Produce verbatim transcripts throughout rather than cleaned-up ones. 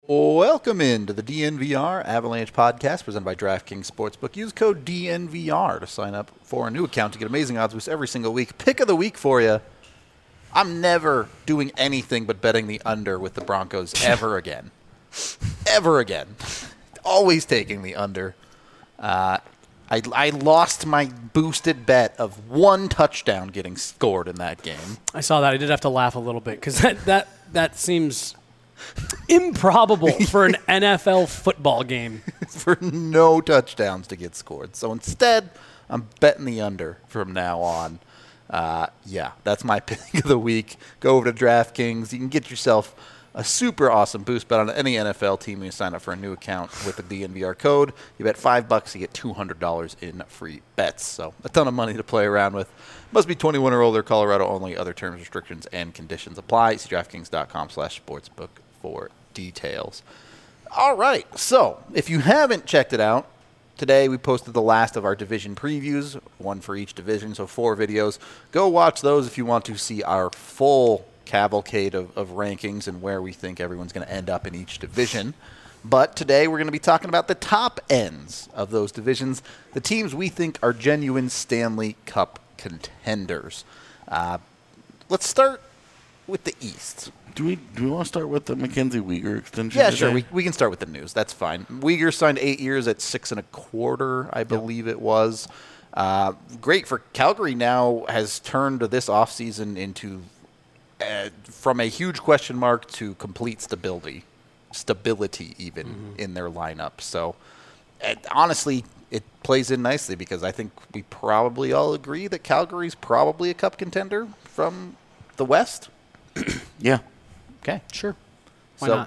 Welcome into the D N V R Avalanche podcast presented by DraftKings Sportsbook. Use code D N V R to sign up for a new account to get amazing odds boosts every single week. Pick of the week for you. I'm never doing anything but betting the under with the Broncos ever again. Ever again. Always taking the under. Uh, I, I lost my boosted bet of one touchdown getting scored in that game. I saw that. I did have to laugh a little bit because that, that, that seems improbable for an N F L football game. For no touchdowns to get scored. So instead, I'm betting the under from now on. Uh, yeah, that's my pick of the week. Go over to DraftKings. You can get yourself a super awesome boost bet on any N F L team when you sign up for a new account with the D N V R code. You bet five bucks, you get two hundred dollars in free bets. So a ton of money to play around with. Must be twenty-one or older, Colorado only. Other terms, restrictions, and conditions apply. See DraftKings.com slash sportsbook for details. All right, so if you haven't checked it out, today we posted the last of our division previews, one for each division, so four videos. Go watch those if you want to see our full cavalcade of, of rankings and where we think everyone's going to end up in each division. But today we're going to be talking about the top ends of those divisions, the teams we think are genuine Stanley Cup contenders. Uh, let's start with the East. Do we do we want to start with the Mackenzie Weegar extension? Yeah, today? sure. We we can start with the news. That's fine. Weegar signed eight years at six and a quarter, I believe yep. it was. Uh, great for Calgary. Now has turned this offseason into uh, from a huge question mark to complete stability, stability even mm-hmm. in their lineup. So uh, honestly, it plays in nicely because I think we probably all agree that Calgary's probably a cup contender from the West. Yeah. Okay. Sure. Why so not?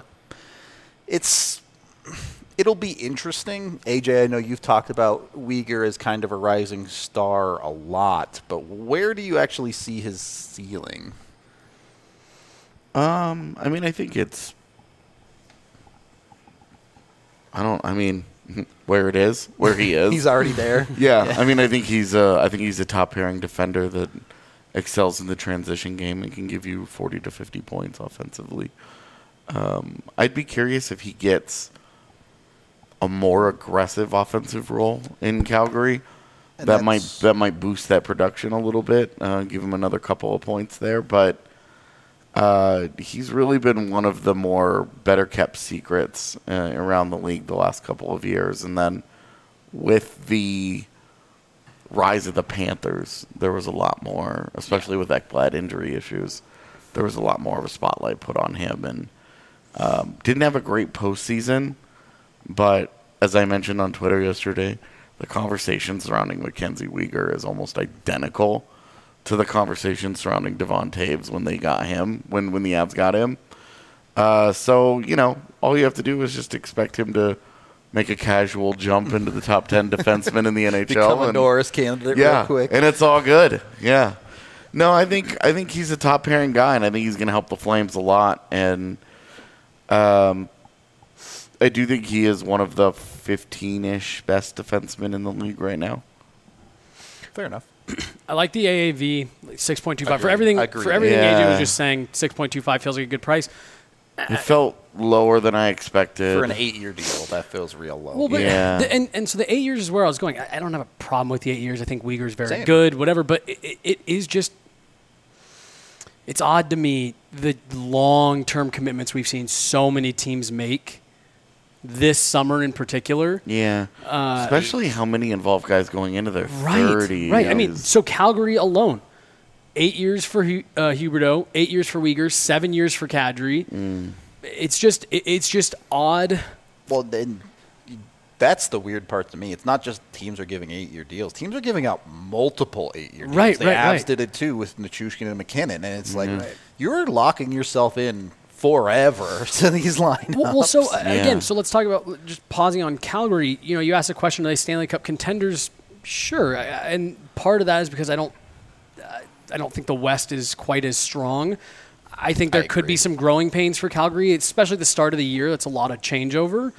It's it'll be interesting. A J, I know you've talked about Weegar as kind of a rising star a lot, but where do you actually see his ceiling? Um, I mean, I think it's I don't I mean where it is, where he is. He's already there. yeah, yeah. I mean, I think he's uh I think he's a top pairing defender that excels in the transition game and can give you forty to fifty points offensively. Um, I'd be curious if he gets a more aggressive offensive role in Calgary. And that might that might boost that production a little bit, uh, give him another couple of points there. But uh, he's really been one of the more better kept secrets uh, around the league the last couple of years. And then with the rise of the Panthers, there was a lot more, especially with Ekblad injury issues, there was a lot more of a spotlight put on him. And um, didn't have a great postseason, but as I mentioned on Twitter yesterday, the conversation surrounding Mackenzie Weegar is almost identical to the conversation surrounding Devon Taves when they got him, when, when the Avs got him. Uh, so, you know, all you have to do is just expect him to make a casual jump into the top ten defensemen in the N H L. Become a Norris candidate yeah, real quick. And it's all good. Yeah. No, I think I think he's a top pairing guy, and I think he's going to help the Flames a lot. And um, I do think he is one of the fifteen-ish best defensemen in the league right now. Fair enough. I like the A A V, like six point two five. For everything, for everything yeah. A J was just saying, six point two five feels like a good price. It felt lower than I expected. For an eight-year deal, that feels real low. Well, but yeah. The, and, and so the eight years is where I was going. I, I don't have a problem with the eight years. I think Weegar's very Same. good, whatever. But it, it, it is just – it's odd to me the long-term commitments we've seen so many teams make this summer in particular. Yeah. Uh, Especially how many involve guys going into their right, thirties. Right. I mean, so Calgary alone. Eight years for uh, Huberdeau, eight years for Weegar, seven years for Kadri. Mm. It's just it, it's just odd. Well, then that's the weird part to me. It's not just teams are giving eight-year deals. Teams are giving out multiple eight-year deals. Right, the right, Avs right. did it too with Nichushkin and McKinnon, and it's Mm-hmm. like you're locking yourself in forever to these lineups. Well, well so uh, Yeah. again, so let's talk about just pausing on Calgary. You know, you asked the question: are they Stanley Cup contenders? Sure, I, and part of that is because I don't. I don't think the West is quite as strong. I think there I could agree. be some growing pains for Calgary, especially the start of the year. That's a lot of changeover.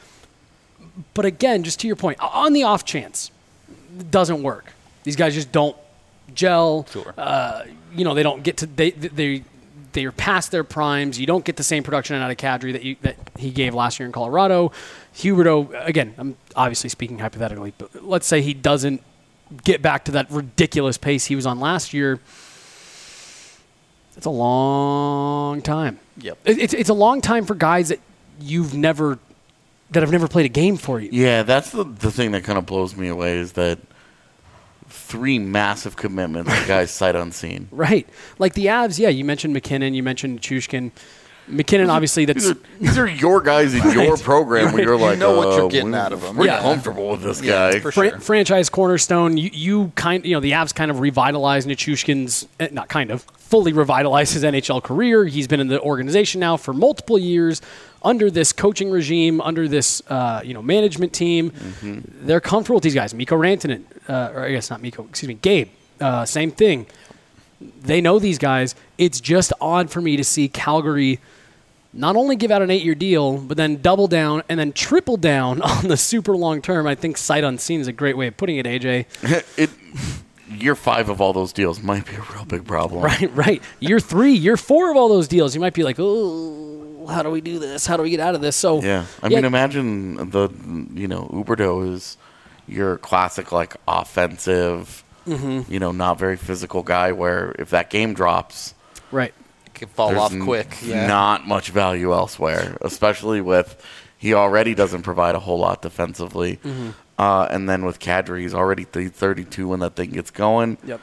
But again, just to your point, on the off chance, it doesn't work. These guys just don't gel. Sure. Uh, you know, they don't get to they they they're past their primes. You don't get the same production out of Kadri that you, that he gave last year in Colorado. Huberdeau, again, I'm obviously speaking hypothetically, but let's say he doesn't get back to that ridiculous pace he was on last year. It's a long time. Yep. It, it's it's a long time for guys that you've never that have never played a game for you. Yeah, that's the the thing that kind of blows me away is that three massive commitments, guys sight unseen. Right. Like the Avs, yeah, you mentioned McKinnon, you mentioned Chushkin. McKinnon, obviously, that's... These are, these are your guys in your Right. program where Right. you're like, You know what uh, you're getting we're- out of him. We're Yeah. comfortable with this Yeah, guy. for Fran- sure. franchise cornerstone. You, you kind, you know, the Avs kind of revitalized Nichushkin's, eh, not kind of, fully revitalized his N H L career. He's been in the organization now for multiple years under this coaching regime, under this, uh, you know, management team. Mm-hmm. They're comfortable with these guys. Mikko Rantanen, uh, or I guess not Mikko, excuse me, Gabe, uh, same thing. They know these guys. It's just odd for me to see Calgary not only give out an eight-year deal, but then double down and then triple down on the super long term. I think sight unseen is a great way of putting it, A J. it, year five of all those deals might be a real big problem. Right, right. Year three, year four of all those deals, you might be like, oh, how do we do this? How do we get out of this? So Yeah. I yeah, mean, imagine the, you know, Huberdeau is your classic, like, offensive, Mm-hmm. you know, not very physical guy where if that game drops, right. Can fall there's off n- quick. Yeah. not much value elsewhere, especially with he already doesn't provide a whole lot defensively. Mm-hmm. Uh, and then with Kadri, he's already th- thirty-two when that thing gets going. Yep.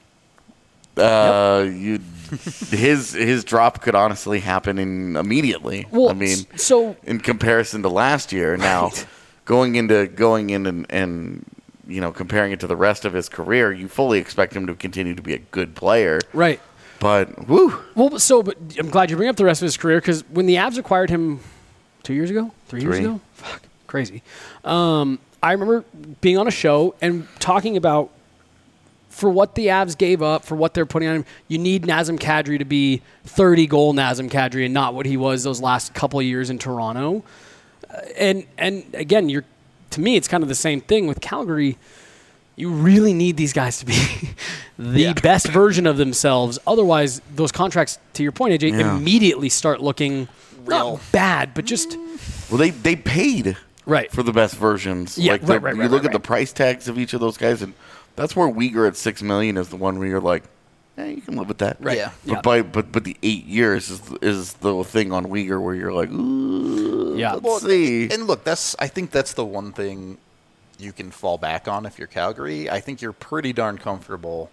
Uh, you, his his drop could honestly happen in immediately. Well, I mean, s- so in comparison to last year, now Right. going into going in and, and you know comparing it to the rest of his career, you fully expect him to continue to be a good player. right. But woo, Well, so but I'm glad you bring up the rest of his career because when the Avs acquired him two years ago, three, years Three. ago, fuck, crazy. Um, I remember being on a show and talking about for what the Avs gave up, for what they're putting on him, you need Nazem Kadri to be thirty goal Nazem Kadri and not what he was those last couple of years in Toronto. Uh, and and again, you're to me, it's kind of the same thing with Calgary. You really need these guys to be the Yeah. best version of themselves. Otherwise, those contracts, to your point, A J, Yeah. immediately start looking Real. not bad, but just well they they paid right. for the best versions. Yeah, like right, the- right, you right, look right, at the right. price tags of each of those guys, and that's where Uyghur at six million is the one where you're like, eh, you can live with that. Right. Yeah. But Yeah. by but but the eight years is is the thing on Uyghur where you're like, ooh, Yeah. let's Well, see. And look, that's I think that's the one thing you can fall back on if you're Calgary. I think you're pretty darn comfortable.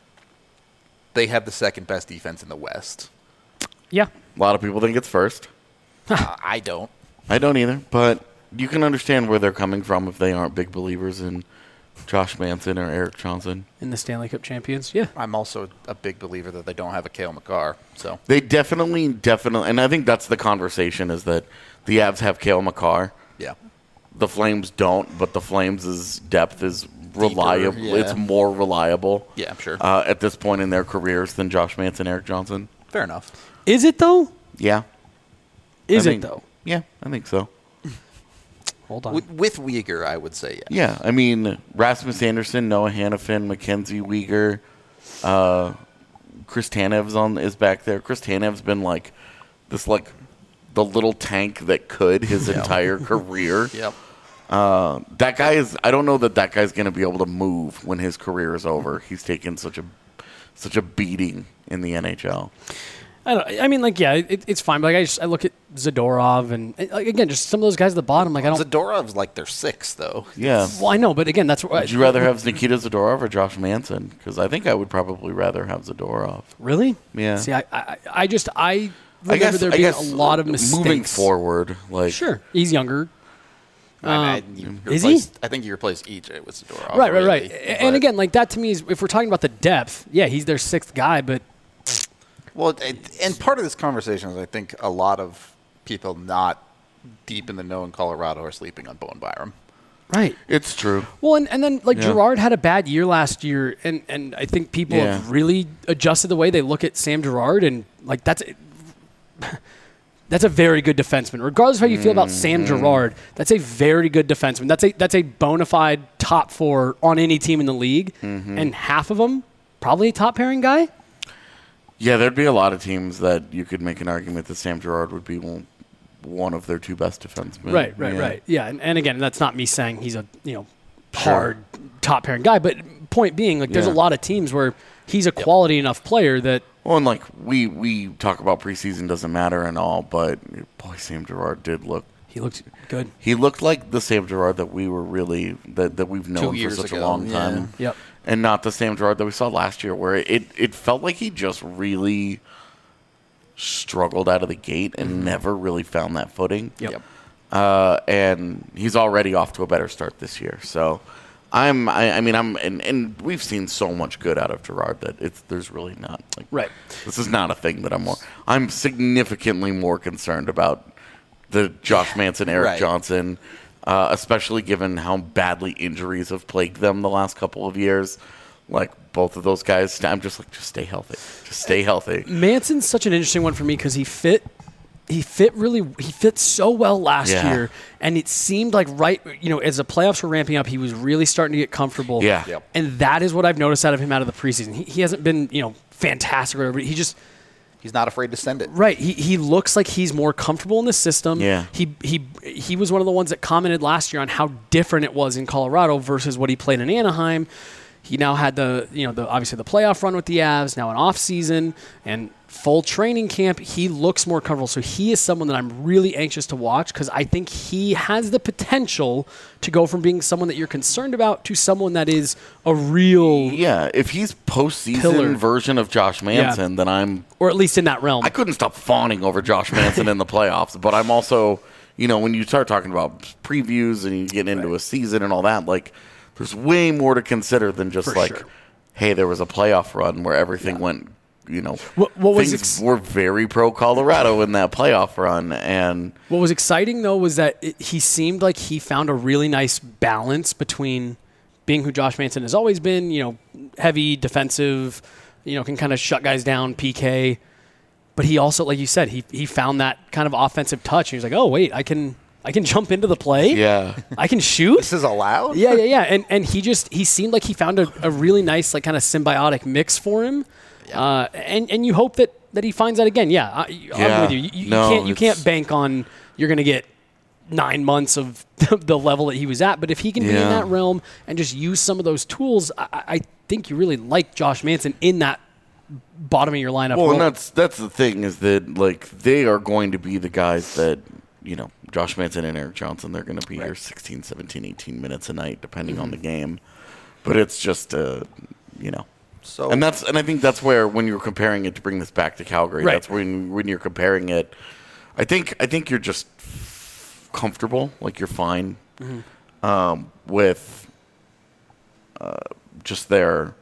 They have the second best defense in the West. Yeah. A lot of people think it's first. uh, I don't. I don't either, but you can understand where they're coming from if they aren't big believers in Josh Manson or Eric Johnson. In the Stanley Cup champions. Yeah. I'm also a big believer that they don't have a Cale McCarr. So They definitely, definitely, and I think that's the conversation is that the Avs have Cale McCarr. yeah, The Flames don't, but the Flames' depth is reliable. yeah. It's more reliable yeah, I'm sure. uh, at this point in their careers than Josh Manson, Eric Johnson. Fair enough. Is it though? Yeah. Is I it think- though? Yeah, I think so. Hold on. With, with Uyghur, I would say yes. Yeah, I mean, Rasmus Anderson, Noah Hannafin, Mackenzie Weegar, uh, Chris Tanev's on is back there. Chris Tanev's been like this, like the little tank that could his entire career. Yep. Uh, that guy is. I don't know that that guy's going to be able to move when his career is over. He's taken such a such a beating in the N H L. I don't. I mean, like, yeah, it, it's fine. But like, I just I look at Zadorov and, and like, again, just some of those guys at the bottom. Like, I don't. Zadorov's like their sixth, though. Yeah. Well, I know, but again, that's what. Would you rather have Nikita Zadorov or Josh Manson? Because I think I would probably rather have Zadorov. Really? Yeah. See, I, I, I just I remember I guess there I being guess a lot of mistakes. moving forward. Like Sure, he's younger. I, Um, mean, you is he? replaced- I think you replaced E J with Zadorov. Right, right, right. really, A- And but- again, like that to me is if we're talking about the depth, yeah, he's their sixth guy, but Well, it, and part of this conversation is I think a lot of people not deep in the know in Colorado are sleeping on Bowen Byram. right. it's true. Well, and, and then like Yeah. Girard had a bad year last year, and, and I think people Yeah. have really adjusted the way they look at Sam Girard, and like that's that's a very good defenseman. Regardless of how you feel about Sam Mm-hmm. Girard, that's a very good defenseman. That's a that's a bona fide top four on any team in the league, Mm-hmm. and half of them probably a top pairing guy. Yeah, there'd be a lot of teams that you could make an argument that Sam Girard would be one, one of their two best defensemen. Right, right, yeah. right. Yeah, and, and again, that's not me saying he's a you know Sure. hard top pairing guy, but point being, like, there's Yeah. a lot of teams where he's a quality enough player that Well, and like we we talk about preseason doesn't matter and all, but boy, Sam Girard did look. he looked good. He looked like the Sam Girard that we were really that, that we've known for years such ago, a long yeah. time. Yep. And not the Sam Girard that we saw last year, where it, it felt like he just really struggled out of the gate and Mm-hmm. never really found that footing. Yep. Yep. Uh, and he's already off to a better start this year. So I'm, I, I mean, I'm, and, and we've seen so much good out of Girard that it's there's really not like Right. This is not a thing that I'm more. I'm significantly more concerned about the Josh Manson, Eric Right. Johnson, uh, especially given how badly injuries have plagued them the last couple of years. Like both of those guys, I'm just like, just stay healthy. Just stay healthy. Manson's such an interesting one for me because he fit, he fit really, he fit so well last Yeah. year, and it seemed like right, you know, as the playoffs were ramping up, he was really starting to get comfortable. Yeah. Yep. And that is what I've noticed out of him out of the preseason. He, he hasn't been, you know, fantastic or whatever. He just He's not afraid to send it. right. He he looks like he's more comfortable in the system. Yeah. He he he was one of the ones that commented last year on how different it was in Colorado versus what he played in Anaheim. He now had the, you know, the obviously the playoff run with the Avs, now an off season and full training camp. He looks more comfortable. So he is someone that I'm really anxious to watch because I think he has the potential to go from being someone that you're concerned about to someone that is a real, Yeah, if he's postseason Pillar. version of Josh Manson, then I'm or at least in that realm. I couldn't stop fawning over Josh Manson in the playoffs, but I'm also, you know, when you start talking about previews and you get into Right. a season and all that, like, there's way more to consider than just For like, sure. hey, there was a playoff run where everything Yeah. went, you know, What- what was things ex- were very pro Colorado in that playoff run, and What was exciting, though, was that it, he seemed like he found a really nice balance between being who Josh Manson has always been, you know, heavy, defensive, you know, can kind of shut guys down, P K. But he also, like you said, he he found that kind of offensive touch. And he was like, oh, wait, I can I can jump into the play. yeah, I can shoot. This is allowed? Yeah, yeah, yeah. And and he just he seemed like he found a, a really nice, like, kind of symbiotic mix for him. Uh, and and you hope that, that he finds that again. Yeah, I, Yeah. I'm with you. You, you No, can't you it's- can't bank on you're going to get nine months of the level that he was at. But if he can be in Yeah. that realm and just use some of those tools, I, I think you really like Josh Manson in that bottom of your lineup. Well, role. and that's that's the thing is that like they are going to be the guys that, you know, Josh Manson and Eric Johnson, they're going to be here sixteen, seventeen, eighteen minutes a night depending on the game. But it's just uh, you know. So And that's and I think that's where when you're comparing it to bring this back to Calgary, Right. that's when when you're comparing it. I think I think you're just comfortable, like you're fine um, with uh, just their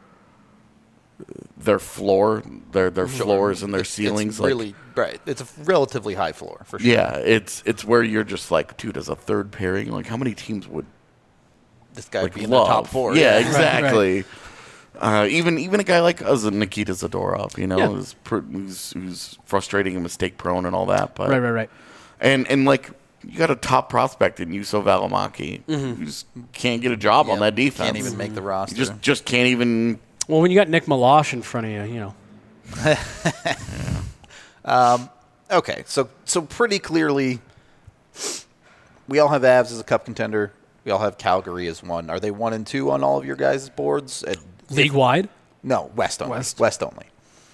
their floor, their their floors and their it's, ceilings. It's like, really right. It's a relatively high floor for sure. yeah, it's it's where you're just like, dude, as a third pairing, like how many teams would This guy like would be in love? the top four. Yeah, Right, exactly. Uh, even even a guy like uh, Nikita Zadorov, you know, Yeah. who's, pr- who's who's frustrating and mistake prone and all that. But right, right, right. and and like you got a top prospect in Juuso Valimaki, Mm-hmm. who just can't get a job on Yep. that defense. Can't even make the roster. You just just can't even. Well, when you got Nick Milosh in front of you, you know. Okay, so so pretty clearly, we all have Avs as a cup contender. We all have Calgary as one. Are they one and two on all of your guys' boards? At, League wide? no, West only. West. West only.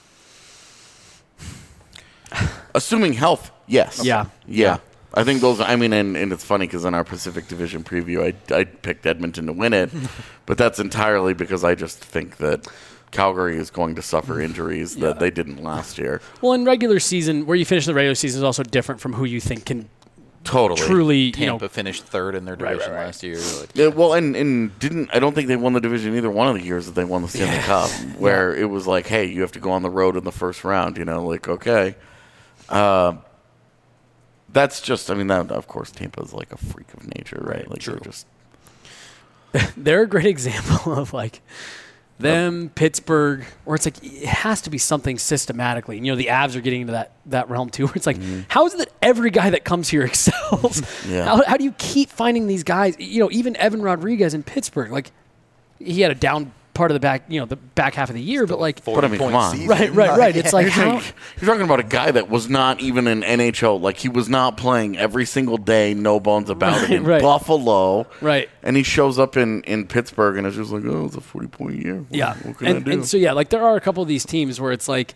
Assuming health, yes. Yeah. Yeah. I think those, I mean, and, and it's funny because in our Pacific Division preview, I, I picked Edmonton to win it, but that's entirely because I just think that Calgary is going to suffer injuries that they didn't last year. Well, in regular season, where you finish the regular season is also different from who you think can Totally. truly, you Tampa know, finished third in their Right, division right, right. last year. Like, Yeah, well, and, and didn't I don't think they won the division either one of the years that they won the Stanley Yeah. Cup, where it was like, hey, you have to go on the road in the first round. You know, like okay, uh, that's just. I mean, that of course Tampa is like a freak of nature, right? Like True. they're just they're a great example of like them, Pittsburgh, or it's like it has to be something systematically. And, you know, the Avs are getting into that, that realm too, where it's like, how is it that every guy that comes here excels? Yeah. how, how do you keep finding these guys? You know, even Evan Rodriguez in Pittsburgh, like he had a down part of the back, you know, the back half of the year, but like, But I mean, come on. season. right, right, right. It's like You're, how, talking, you're talking about a guy that was not even in N H L. Like, he was not playing every single day, no bones about Right, it, in right. Buffalo. right. And he shows up in, in Pittsburgh, and it's just like, oh, it's a forty-point year. What, Yeah. what can and, I do? and so, yeah, like there are a couple of these teams where it's like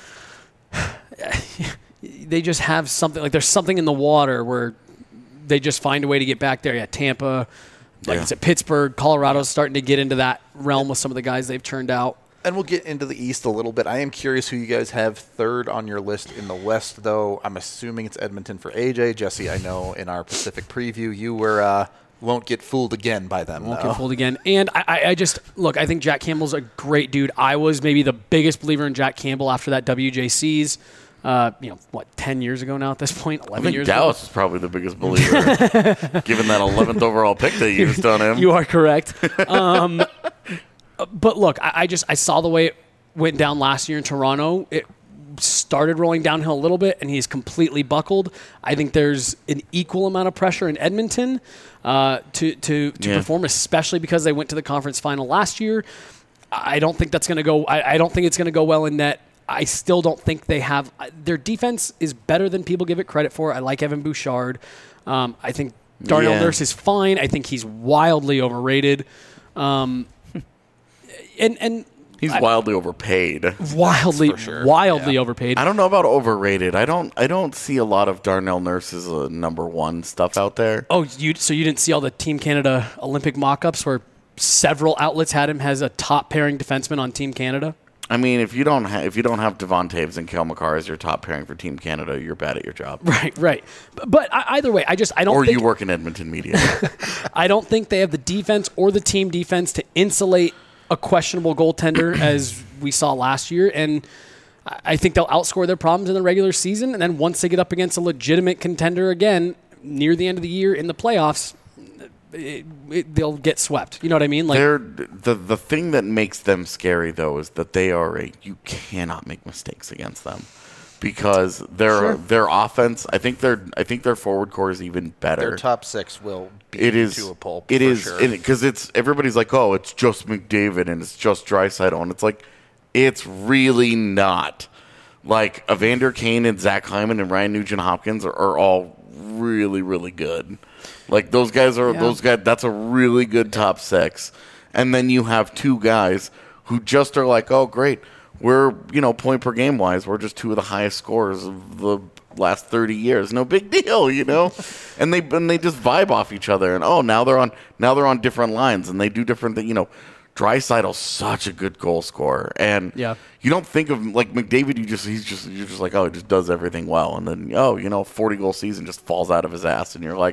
they just have something, like there's something in the water where they just find a way to get back there. Yeah, Tampa, like Yeah. I said, Pittsburgh, Colorado's starting to get into that realm with some of the guys they've turned out. And we'll get into the East a little bit. I am curious who you guys have third on your list in the West, though. I'm assuming it's Edmonton for A J. Jesse, I know in our Pacific preview you were uh, won't get fooled again by them. Won't though. get fooled again. And I, I- I just, look, I think Jack Campbell's a great dude. I was maybe the biggest believer in Jack Campbell after that W J C's, uh, you know, what, ten years ago now at this point? eleven I think years Dallas is probably the biggest believer, given that eleventh overall pick they used on him. ago. You are correct. Um, but look, I, I just, I saw the way it went down last year in Toronto. It started rolling downhill a little bit, and he's completely buckled. I think there's an equal amount of pressure in Edmonton uh, to to, to Yeah. perform, especially because they went to the conference final last year. I don't think that's going to go. I, I don't think it's going to go well in net. I still don't think they have their defense is better than people give it credit for. I like Evan Bouchard. Um, I think Darnell Yeah. Nurse is fine. I think he's wildly overrated. Um, and and He's I- wildly overpaid. wildly for sure. wildly Yeah. overpaid. I don't know about overrated. I don't. I don't see a lot of Darnell Nurse's uh, number one stuff out there. Oh, you so you didn't see all the Team Canada Olympic mock-ups where several outlets had him as a top pairing defenseman on Team Canada? I mean, if you don't ha- if you don't have Devon Taves and Cale Makar as your top pairing for Team Canada, you're bad at your job. Right, right. But, but I- either way, I just I don't Or think you work in Edmonton media. I don't think they have the defense or the team defense to insulate a questionable goaltender as we saw last year. And I I think they'll outscore their problems in the regular season. And then once they get up against a legitimate contender again near the end of the year in the playoffs, it, it, they'll get swept. You know what I mean? Like, They're the the thing that makes them scary though is that they are a you cannot make mistakes against them because their Sure. their offense. I think their I think their forward core is even better. Their top six will beat It you is. to a pulp. It for is sure. because it's everybody's like, oh, it's just McDavid and it's just Draisaitl, and it's like, it's really not. Like Evander Kane and Zach Hyman and Ryan Nugent Hopkins are, are all really really good. Like those guys are Yeah. those guys. That's a really good top six, and then you have two guys who just are like, oh, great. We're, you know, point per game wise, we're just two of the highest scorers of the last thirty years. No big deal, you know? and they and they just vibe off each other. And oh, now they're on now they're on different lines and they do different things. You know, Draisaitl's such a good goal scorer. And Yeah. you don't think of like McDavid, you just he's just you're just like, oh, he just does everything well. And then oh, you know, forty goal season just falls out of his ass and you're like,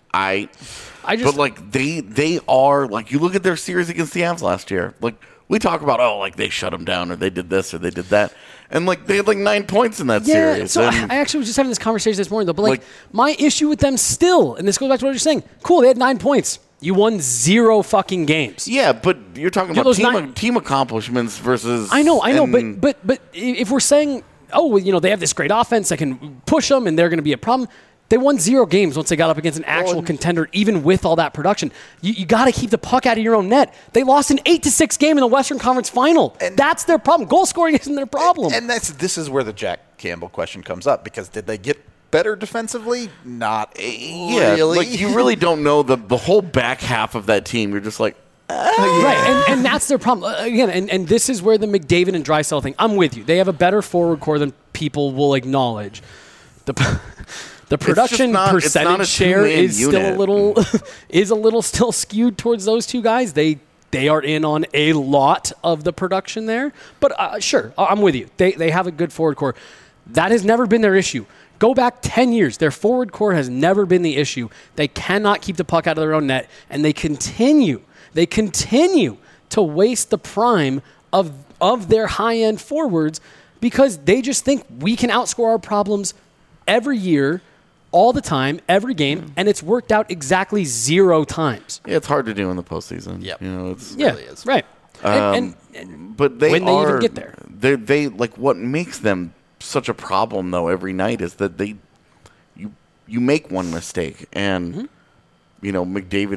I I just but like they they are like you look at their series against the Avs last year. Like we talk about oh like they shut them down or they did this or they did that, and like they had like nine points in that Yeah, series. so I, and I actually was just having this conversation this morning, though. But like, Like- my issue with them still, and this goes back to what you're saying. Cool, they had nine points. You won zero fucking games. yeah, but you're talking Yeah, about those team nine- team accomplishments versus. I know, I know, and- but but but if we're saying, oh, well, you know, they have this great offense that can push them, and they're going to be a problem. They won zero games once they got up against an actual and- contender, even with all that production. You, you got to keep the puck out of your own net. They lost an eight to six game in the Western Conference Final. And- that's their problem. Goal scoring isn't their problem. And that's this is where the Jack Campbell question comes up because did they get better defensively? Not yeah, really. like you really don't know the the whole back half of that team. You're just like. Right, and, and that's their problem. Uh, Again, and, and this is where the McDavid and Draisaitl thing, I'm with you. They have a better forward core than people will acknowledge. The the production not- it's not percentage a share two-man is still a unit. little is a little still skewed towards those two guys. They they are in on a lot of the production there. But uh, sure, I- I'm with you. They they have a good forward core. That has never been their issue. Go back ten years. Their forward core has never been the issue. They cannot keep the puck out of their own net, and they continue, they continue to waste the prime of, of their high-end forwards because they just think we can outscore our problems every year, all the time, every game, and it's worked out exactly zero times. Yeah, it's hard to do in the postseason. Yep. You know, it's Yeah, really is. right. Um, and, and, but they when they are, even get there. They they like what makes them such a problem though every night is that they you you make one mistake and Mm-hmm. you know McDavid is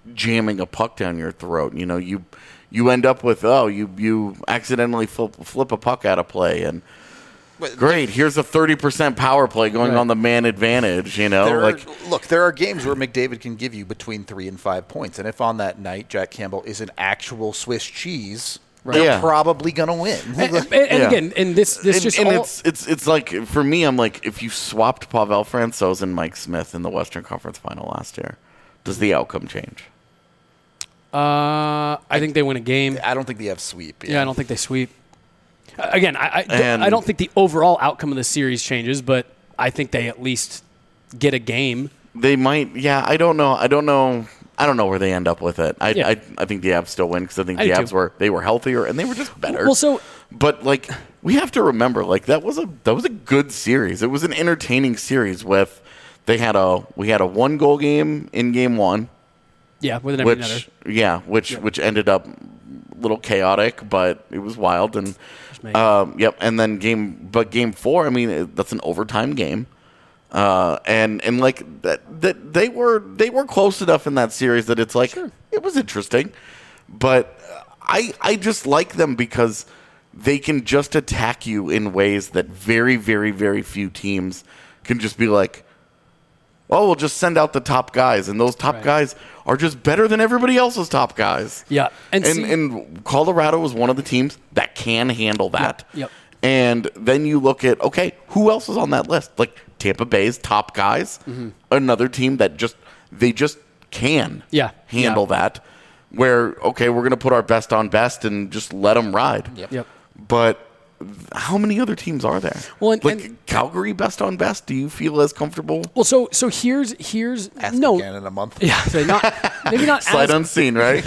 jamming a puck down your throat. You know, you you end up with oh, you you accidentally flip, flip a puck out of play and. Great. Here's a thirty percent power play going right. on the man advantage. You know, there like are, look, there are games where McDavid can give you between three and five points, and if on that night Jack Campbell is an actual Swiss cheese, right. they're yeah. probably gonna win. And, and, and Yeah. again, and this this and, just and all, it's it's it's like for me, I'm like if you swapped Pavel Francouz and Mike Smith in the Western Conference Final last year, does the outcome change? Uh, I think they win a game. I don't think they have sweep. Yeah, I don't think they sweep. Uh, Again, I I, And- I don't think the overall outcome of the series changes, but I think they at least get a game. They might. Yeah, I don't know. I don't know. I don't know where they end up with it. I Yeah. I, I think the Avs still win because I think I the do Avs too. were they were healthier and they were just better. Well, so But like we have to remember, like that was a that was a good series. It was an entertaining series. With they had a we had a one goal game in game one, yeah, with an empty netter. which yeah, which Yeah. which ended up a little chaotic, but it was wild. And made. um, yep, and then game but game four. I mean, it- that's an overtime game. Uh, and and like that, that they were they were close enough in that series that it's like it was interesting, but I I just like them because they can just attack you in ways that very very very few teams can just be like, oh, we'll just send out the top guys, and those top Right. guys are just better than everybody else's top guys. Yeah, and And, see- and Colorado is one of the teams that can handle that. yep. And then you look at, okay, who else is on that list? Like Tampa Bay's top guys, Mm-hmm. another team that just, they just can Yeah, handle yeah. that. Where, okay, we're going to put our best on best and just let them ride. Yep. Yep. But how many other teams are there? Well, and- like and- Calgary best on best, do you feel as comfortable? Well, so so here's here's Ask no. again in a month. Yeah, so not maybe not Sight as, unseen, right?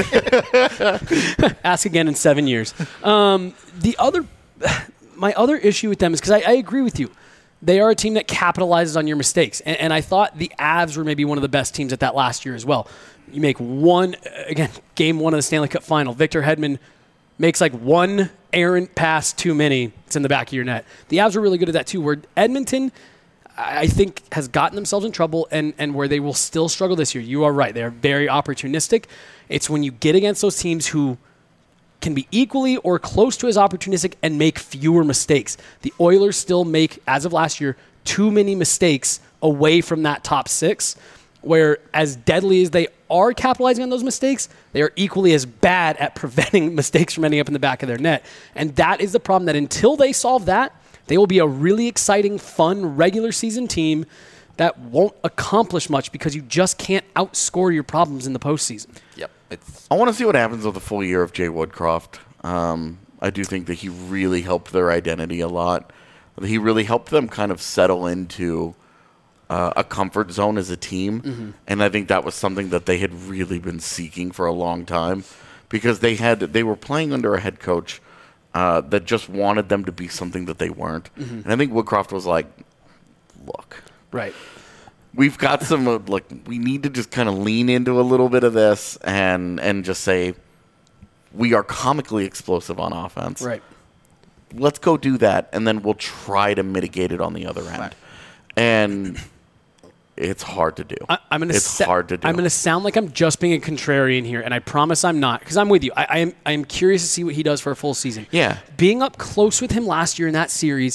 ask again in seven years. Um, the other, my other issue with them is because I, I agree with you. They are a team that capitalizes on your mistakes, and, and I thought the Avs were maybe one of the best teams at that last year as well. You make one again, game one of the Stanley Cup Final. Victor Hedman makes like one errant pass too many. It's in the back of your net. The Avs are really good at that too. Where Edmonton, I think, has gotten themselves in trouble, and, and where they will still struggle this year. You are right. They are very opportunistic. It's when you get against those teams who can be equally or close to as opportunistic and make fewer mistakes. The Oilers still make, as of last year, too many mistakes away from that top six, where as deadly as they are capitalizing on those mistakes, they are equally as bad at preventing mistakes from ending up in the back of their net. And that is the problem, that until they solve that, they will be a really exciting, fun, regular season team that won't accomplish much because you just can't outscore your problems in the postseason. Yep. It's I want to see what happens with the full year of Jay Woodcroft. Um, I do think that he really helped their identity a lot. He really helped them kind of settle into uh, a comfort zone as a team. Mm-hmm. And I think that was something that they had really been seeking for a long time because they had they were playing under a head coach uh, that just wanted them to be something that they weren't. Mm-hmm. And I think Woodcroft was like, look, Right. we've got some uh, like we need to just kind of lean into a little bit of this and and just say we are comically explosive on offense. Right. Let's go do that, and then we'll try to mitigate it on the other end. Right. And it's hard to do. I, I'm gonna. It's sa- hard to do. I'm gonna sound like I'm just being a contrarian here, and I promise I'm not, because I'm with you. I, I am. I am curious to see what he does for a full season. Yeah. Being up close with him last year in that series,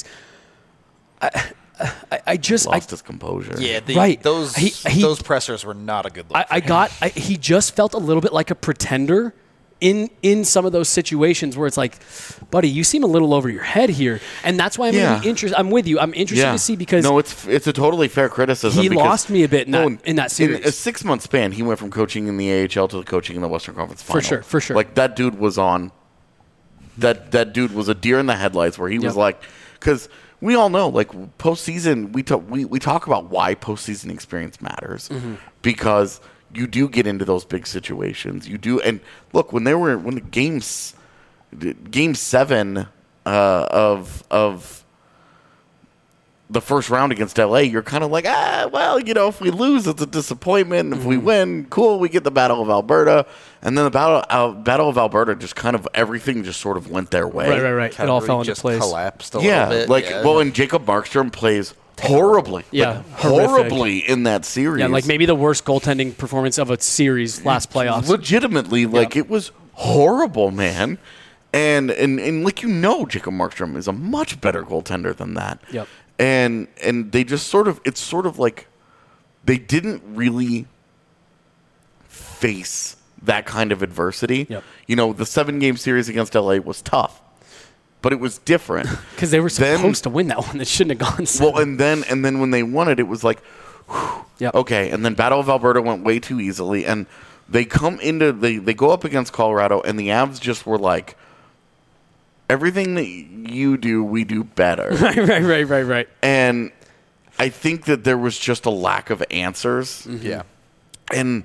I, I, I just. I, Lost his composure. yeah. The, Right. Those He- he- those pressers were not a good look. I, I got. I, he just felt a little bit like a pretender. In, in some of those situations where it's like, buddy, you seem a little over your head here, and that's why I'm Yeah. really interested. I'm with you. I'm interested Yeah. to see because no, it's it's a totally fair criticism. he because- lost me a bit in that- Well, in that series. In a six month span, he went from coaching in the A H L to coaching in the Western Conference Final. sure, for sure. Like that dude was on. That that dude was a deer in the headlights, where he was Yep. like, because we all know, like postseason, we talk we we talk about why postseason experience matters Mm-hmm. because you do get into those big situations. You do, and look when they were when the games, game seven uh, of of the first round against L A, you're kind of like, ah, well, you know, if we lose, it's a disappointment. If Mm-hmm. we win, cool, we get the Battle of Alberta. And then the Battle uh, Battle of Alberta, just kind of everything just sort of went their way. right, right, right. It all Calgary fell into just place. collapsed a Yeah, little bit. like, yeah. well, and Jacob Markstrom plays horribly. Yeah, like, horrific. horribly in that series. Yeah, like maybe the worst goaltending performance of a series last playoffs. Legitimately, like Yep. it was horrible, man. And, and and like you know, Jacob Markstrom is a much better goaltender than that. Yep. And and they just sort of it's sort of like they didn't really face that kind of adversity. Yep. You know, the seven game series against L A was tough, but it was different. Because they were Then- supposed to win that one. That shouldn't have gone so. Well, and then and then when they won it, it was like, whew, Yep. okay. And then Battle of Alberta went way too easily, and they come into they they go up against Colorado, and the Avs just were like, everything that you do, we do better. right, right, right, right, right. And I think that there was just a lack of answers, Yeah. and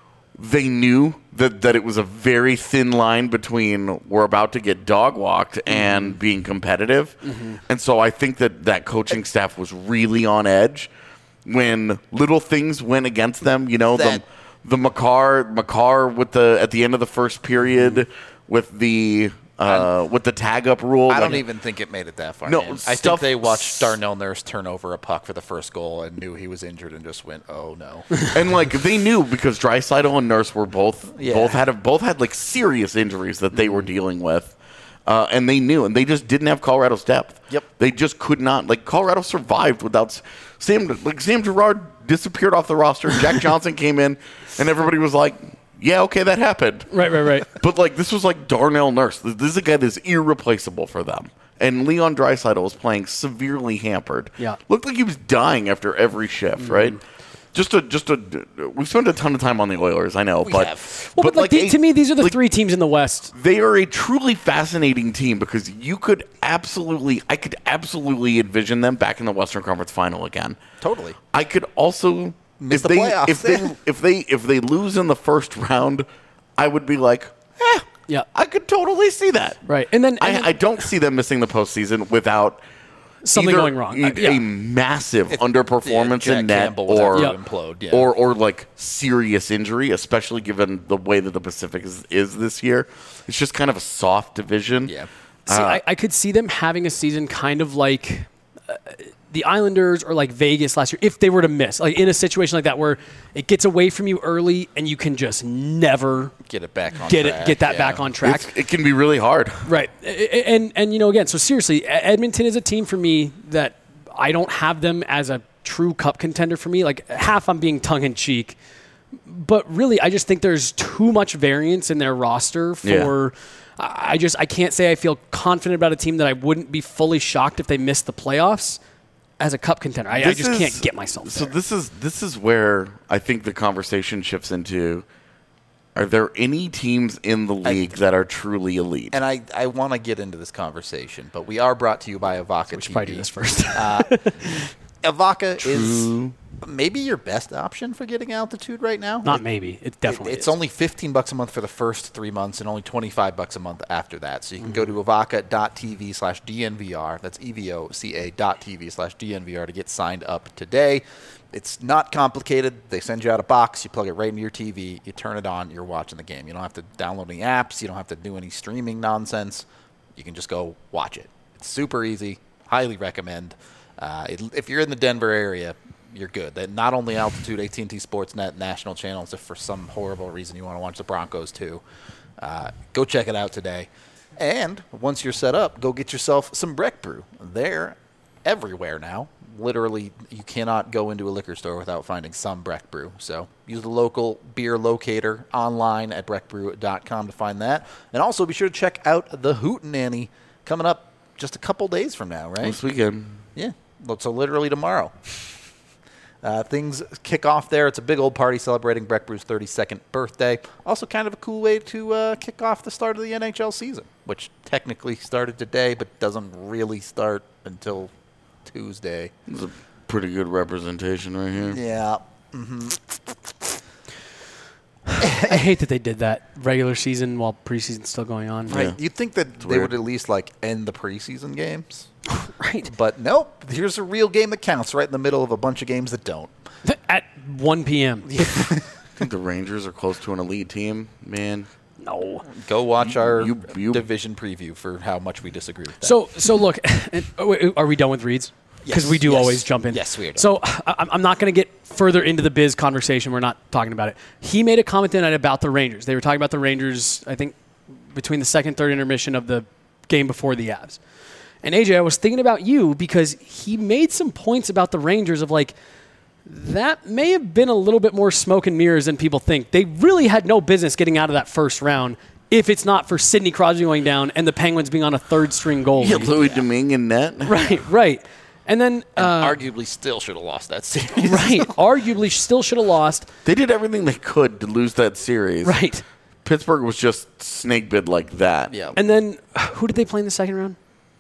they knew that, that it was a very thin line between we're about to get dog walked and being competitive. And so I think that that coaching staff was really on edge when little things went against them. You know, That- the the McCarr McCarr with the at the end of the first period with the uh, with the tag up rule. I don't like- even think it made it that far. No, man. I think stuff- they watched Darnell Nurse turn over a puck for the first goal and knew he was injured and just went, "Oh no." And like they knew because Draisaitl and Nurse were both Yeah. both had both had like serious injuries that they were dealing with, uh, and they knew, and they just didn't have Colorado's depth. Yep. They just could not. Like Colorado survived without S- Sam. Like Sam Girard disappeared off the roster. Jack Johnson came in, and everybody was like, "Yeah, okay, that happened." Right, right, right. But like this was like Darnell Nurse. This this is a guy that's irreplaceable for them. And Leon Draisaitl was playing severely hampered. Yeah. Looked like he was dying after every shift, right? Just a just a we spent a ton of time on the Oilers, I know, We but have. Well, but, like, the- a- to me, these are the like, three teams in the West. They are a truly fascinating team because you could absolutely I could absolutely envision them back in the Western Conference Final again. Totally. I could also Miss if the they playoffs. if they if they if they lose in the first round, I would be like, eh, Yeah. I could totally see that. Right. And then, and I, then I don't see them missing the postseason without something either going wrong. A, Uh, yeah. a massive underperformance yeah, Jack in net, Campbell would or have Yeah. to implode. Yeah. or or like serious injury, especially given the way that the Pacific is, is this year. It's just kind of a soft division. yeah. See, Uh, I, I could see them having a season kind of like uh, the Islanders or like Vegas last year if they were to miss, like in a situation like that where it gets away from you early and you can just never Get it back on get track. it get that yeah. back on track. It's- it can be really hard. Right. A- a- And and you know again, so seriously, E- Edmonton is a team for me that I don't have them as a true cup contender for me. Like half I'm being tongue in cheek, but really I just think there's too much variance in their roster for I I just I can't say I feel confident about a team that I wouldn't be fully shocked if they missed the playoffs as a cup contender. I, I This just is- can't get myself So there. this is this is where I think the conversation shifts into: are there any teams in the league that are truly elite? And I, I want to get into this conversation, but we are brought to you by Avaka we should T V. probably do this first. Avaka is True. maybe your best option for getting altitude right now. Not It- maybe. It It- definitely it's is. only fifteen bucks a month for the first three months and only twenty-five bucks a month after that. So you can go Mm-hmm. to avaka.tv slash DNVR. That's E-V-O-C-A dot TV slash DNVR to get signed up today. It's not complicated. They send you out a box. You plug it right into your T V. You turn it on. You're watching the game. You don't have to download any apps. You don't have to do any streaming nonsense. You can just go watch it. It's super easy. Highly recommend. Uh, it, if you're in the Denver area, you're good. That not only Altitude, A T and T Sportsnet, national channels. If for some horrible reason you want to watch the Broncos too, uh, go check it out today. And once you're set up, go get yourself some Breck Brew. They're everywhere now. Literally, you cannot go into a liquor store without finding some Breck Brew. So use the local beer locator online at breck brew dot com to find that. And also be sure to check out the Hootenanny coming up just a couple days from now, right? This weekend. Yeah, so literally tomorrow. Uh, things kick off there. It's a big old party celebrating Breck Brew's thirty-second birthday. Also kind of a cool way to uh, kick off the start of the N H L season, which technically started today but doesn't really start until Tuesday. This is a pretty good representation right here. Yeah. I hate that they did that regular season while preseason's still going on. Right. Yeah. You'd think that they weird. would at least like end the preseason games. Right. But nope. Here's a real game that counts right in the middle of a bunch of games that don't. At one p.m. I think the Rangers are close to an elite team, man. No. Go watch our you- you- division preview for how much we disagree with that. So so look, and- oh, wait, are we done with reads? because Yes, we do yes. always jump in. Yes, we are. So I, I'm not going to get further into the Biz conversation. We're not talking about it. He made a comment tonight about the Rangers. They were talking about the Rangers, I think, between the second and third intermission of the game before the Avs. And A J, I was thinking about you because he made some points about the Rangers of like, that may have been a little bit more smoke and mirrors than people think. They really had no business getting out of that first round if it's not for Sidney Crosby going down and the Penguins being on a third-string goalie. Yeah, Louis Domingue in net. Right, right. And then... Uh, And arguably still should have lost that series. right, arguably still should have lost. They did everything they could to lose that series. Right. Pittsburgh was just snake bid like that. Yeah. And then who did they play in the second round?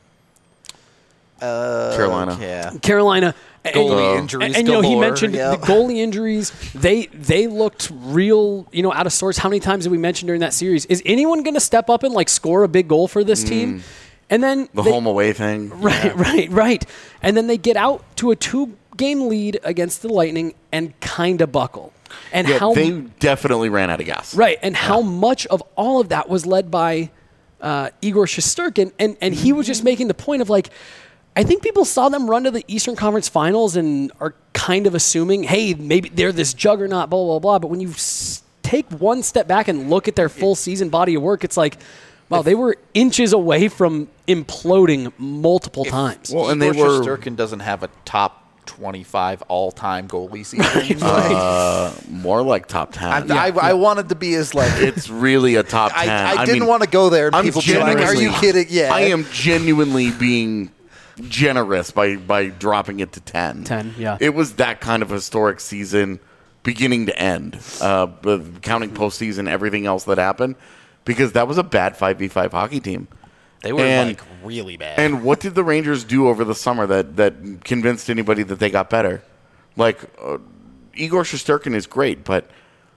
Uh, Carolina. Yeah. Carolina. And- Goalie and- injuries And, you know, he galore, mentioned yep. the goalie injuries. They they looked real, you know, out of sorts. How many times did we mention during that series? Is anyone going to step up and like score a big goal for this team? And then The they- home away thing. Right, right, right. And then they get out to a two-game lead against the Lightning and kind of buckle. And Yeah, how they definitely ran out of gas. right, and how much of all of that was led by uh, Igor Shesterkin, and and he was just making the point of like, I think people saw them run to the Eastern Conference Finals and are kind of assuming, hey, maybe they're this juggernaut, blah blah blah. But when you s- take one step back and look at their full season body of work, it's like, wow, they were inches away from imploding multiple times. Well, and Igor they were- Shesterkin doesn't have a top twenty-five all-time goalie season. Uh, more like top ten. I, I, I wanted to be as like It's really a top ten. I, I didn't mean, want to go there and I'm people be like, "Are you genuinely- kidding?" Yeah, I am genuinely being generous by, by dropping it to ten. ten, yeah. It was that kind of historic season, beginning to end, uh, but counting postseason, everything else that happened, because that was a bad five v five hockey team. They were And- like really bad. And what did the Rangers do over the summer that, that convinced anybody that they got better? Like, uh, Igor Shesterkin is great, but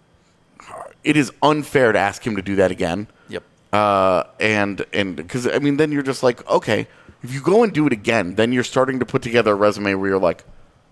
it is unfair to ask him to do that again. yep. Uh, and and because I mean, then you're just like, okay, if you go and do it again, then you're starting to put together a resume where you're like,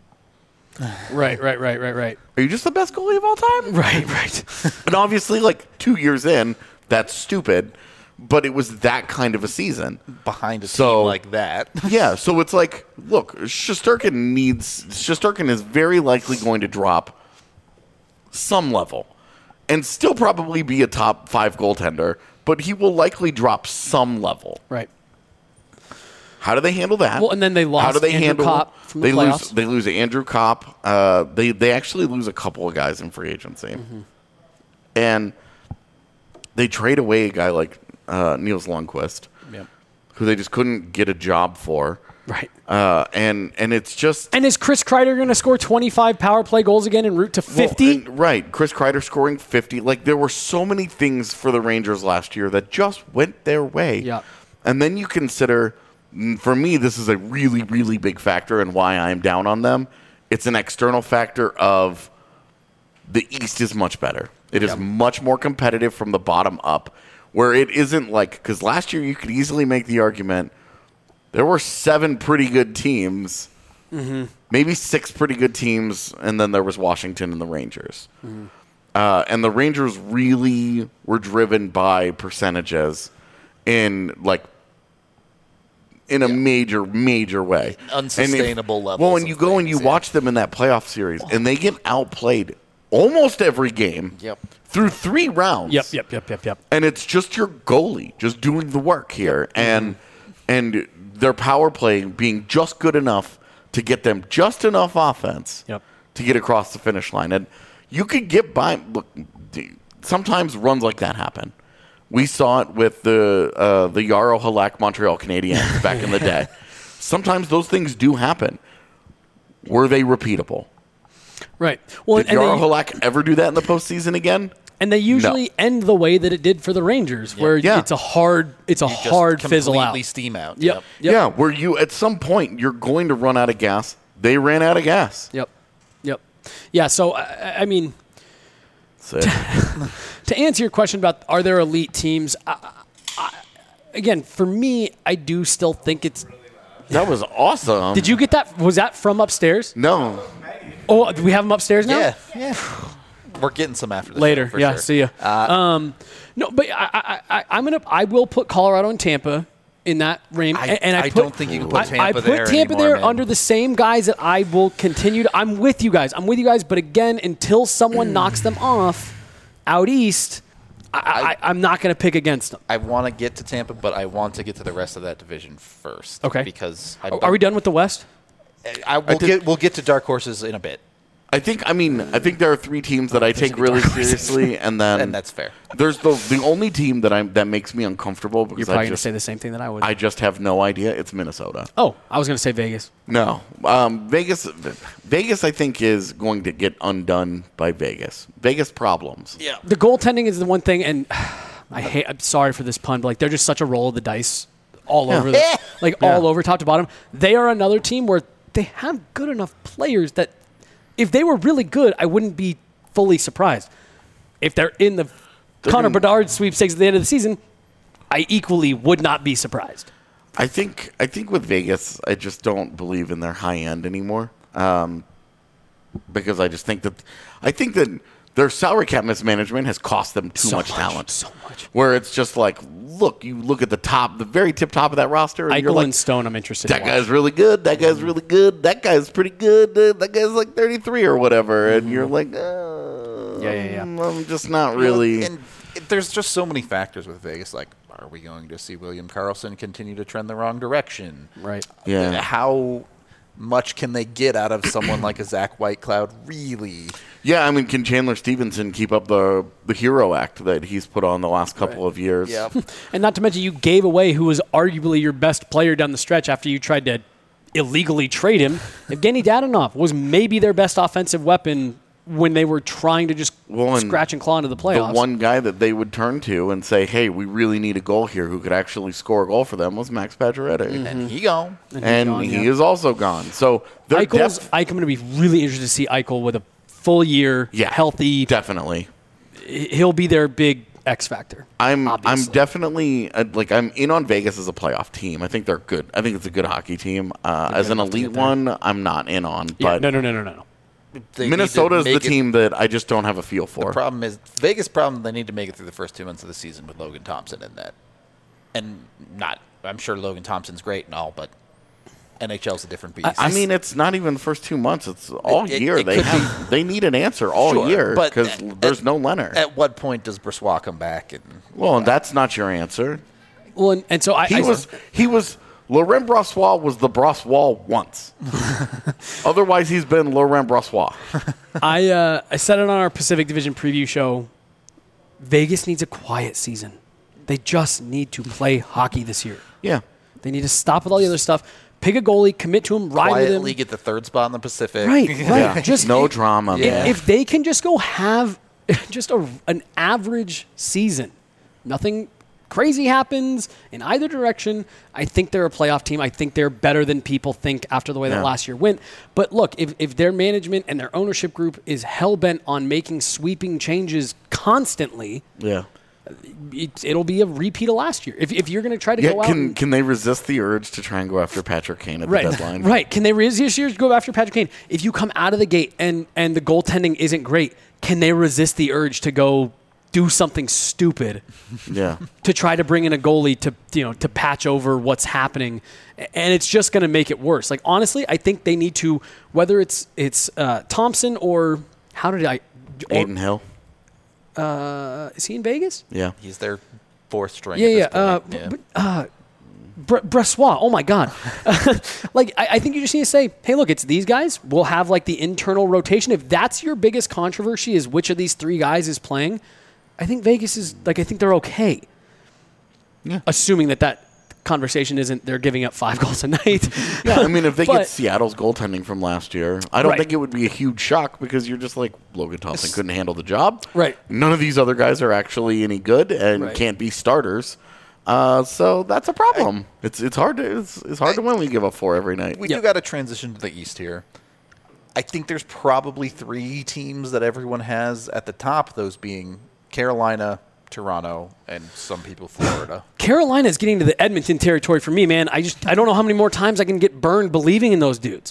right, right, right, right, right, are you just the best goalie of all time? right, right. And obviously, like two years in, that's stupid. But it was that kind of a season. Behind a So- team like that. Yeah, so it's like, look, Shesterkin needs Shesterkin is very likely going to drop some level, and still probably be a top five goaltender. But he will likely drop some level. Right. How do they handle that? Well, and then they How lost do they Andrew handle? Kopp from the they lose. playoffs. They lose Andrew Kopp. Uh, they they actually lose a couple of guys in free agency, Mm-hmm. and they trade away a guy like uh, Niels Lundqvist, Yep. who they just couldn't get a job for. Right. Uh, and and it's just And is Chris Kreider going to score twenty-five power play goals again en route to fifty? Well, and- right. Chris Kreider scoring fifty. Like, there were so many things for the Rangers last year that just went their way. Yeah. And then you consider, mm, for me, this is a really, really big factor in why I'm down on them. It's an external factor of the East is much better. It is much more competitive from the bottom up, where it isn't like, because last year you could easily make the argument there were seven pretty good teams, Mm-hmm. maybe six pretty good teams, and then there was Washington and the Rangers. Mm-hmm. Uh, and the Rangers really were driven by percentages in like in a major, major way. Unsustainable And if- levels Well, when of you go and things, you yeah. watch them in that playoff series, and they get outplayed almost every game Yep. through three rounds. Yep, yep, yep, yep, yep. And it's just your goalie just doing the work here, and and their power play being just good enough to get them just enough offense Yep. to get across the finish line. And you could get by. Look, sometimes runs like that happen. We saw it with the uh, the Yarrow Halak Montreal Canadiens back in the day. Sometimes those things do happen. Were they repeatable? Right. Well, Did and Yarrow they, Halak ever do that in the postseason again? and they usually end the way that it did for the Rangers, where Yeah. it's a hard, it's a You just hard fizzle out. completely steam out. Yep. Yep. Yep. Yeah, where you at some point you're going to run out of gas. They ran out of gas. Yep. Yep. Yeah. So I, I mean, That's it. to answer your question about are there elite teams, I, I, again, for me, I do still think it's. That was awesome. Did you get that? Was that from upstairs? No. Oh, do we have them upstairs now? Yeah. Yeah. We're getting some after this. Later. show, for Yeah. sure. See ya. Uh, um, no, but I, I, I, I'm gonna. I will put Colorado and Tampa in that range. I, and, and I, I put, don't think you can put I, Tampa I put there Tampa anymore, there man. under the same guys that I will continue to. I'm with you guys. I'm with you guys. But again, until someone knocks them off out east, I, I, I'm not going to pick against them. I want to get to Tampa, but I want to get to the rest of that division first. Okay. Because I Are we done with the West? I, we'll did- get we'll get to dark horses in a bit, I think. I mean, I think there are three teams that I take really seriously, and then and that's fair. there's the the only team that I'm that makes me uncomfortable You're because probably I going to just say the same thing that I would. I just have no idea. It's Minnesota. oh, I was going to say Vegas. No, um, Vegas. Vegas, I think, is going to get undone by Vegas. Vegas problems. Yeah. The goaltending is the one thing, and I hate. I'm sorry for this pun, but like they're just such a roll of the dice all over, the, like Yeah. all over, top to bottom. They are another team where they have good enough players that if they were really good, I wouldn't be fully surprised. If they're in the They're Connor gonna- Bedard sweepstakes at the end of the season, I equally would not be surprised. I think. I think with Vegas, I just don't believe in their high end anymore. Um, because I just think that I think that their salary cap mismanagement has cost them too So much, much, talent. so much. Where it's just like, look, you look at the top, the very tip top of that roster, and you're Eichel like, and Stone, I'm interested that in. guy's watching. really good. That guy's really good. That guy's pretty good. Uh, that guy's like thirty-three or whatever, and you're like, uh, Yeah, yeah, yeah. I'm just not really. And it, there's just so many factors with Vegas. Like, are we going to see William Karlsson continue to trend the wrong direction? Right. Yeah. How much can they get out of someone like a Zach Whitecloud? Really? Yeah, I mean, can Chandler Stevenson keep up the the hero act that he's put on the last couple of years? Yeah. And not to mention, you gave away who was arguably your best player down the stretch after you tried to illegally trade him. Evgeny Dadonov was maybe their best offensive weapon when they were trying to just Well, and scratch and claw into the The playoffs. one guy that they would turn to and say, "Hey, we really need a goal here," who could actually score a goal for them, was Max Pacioretty, And he gone. And he's and gone, he yeah. is also gone. So their Eichel's, depth, I'm going to be really interested to see Eichel with a full year, yeah, healthy. definitely. He'll be their big X factor. I'm obviously. I'm definitely uh, like I'm in on Vegas as a playoff team. I think they're good. I think it's a good hockey team. Uh, as an enough to elite get there. one, I'm not in on. Yeah, But no, no, no, no, no. They need Minnesota to is the make it- team that I just don't have a feel The for. problem is Vegas' problem. They need to make it through the first two months of the season with Logan Thompson in that, and not. I'm sure Logan Thompson's great and all, but N H L's a different beast. I mean, it's not even the first two months. It's all It- it- year. it they could have, they need an answer all Sure, year but because at- there's at- no Leonard. At what point does Bressois come back? And well, and that's not your answer. Well, and, and so I, He I was he was Laurent Brossois was the Brossois once. Otherwise, he's been Laurent Brossois. I uh, I said it on our Pacific Division preview show. Vegas needs a quiet season. They just need to play hockey this year. Yeah. They need to stop with all the other stuff. Pick a goalie, commit to him, ride with quietly him. get the third spot in the Pacific. Right, right. Yeah. Just no if, drama, Yeah. man. if they can just go have just a, an average season, nothing crazy happens in either direction, I think they're a playoff team. I think they're better than people think after the way Yeah. that last year went. But look, if, if their management and their ownership group is hell-bent on making sweeping changes constantly, yeah. it, it'll be a repeat of last year. If, if you're going to try to Yeah, go out can and, can they resist the urge to try and go after Patrick Kane at right, the deadline? right. Can they resist this year to go after Patrick Kane? If you come out of the gate and, and the goaltending isn't great, can they resist the urge to go do something stupid Yeah. to try to bring in a goalie to you know to patch over what's happening, and it's just going to make it worse. Like honestly, I think they need to, whether it's it's uh, Thompson or how did I? Or, Aiden Hill. uh, is he in Vegas? Yeah. He's their fourth string. Yeah, yeah. at Uh, this point. yeah. but, uh, Bre- Bressois, oh my God! like I, I think you just need to say, hey, look, it's these guys. We'll have like the internal rotation. If that's your biggest controversy, is which of these three guys is playing. I think Vegas is like I think they're okay. Yeah. Assuming that that conversation isn't they're giving up five goals a night. Yeah, I mean, if they But- get Seattle's goaltending from last year, I don't Right. think it would be a huge shock because you're just like, Logan Thompson couldn't handle the job. Right. None of these other guys are actually any good and Right. can't be starters. Uh, so that's a problem. It's it's hard to it's, it's hard to win when you give up four every night. We Yep. do got to transition to the East here. I think there's probably three teams that everyone has at the top, those being Carolina, Toronto, and some people Florida. Carolina is getting to the Edmonton territory for me, man. I just I don't know how many more times I can get burned believing in those dudes.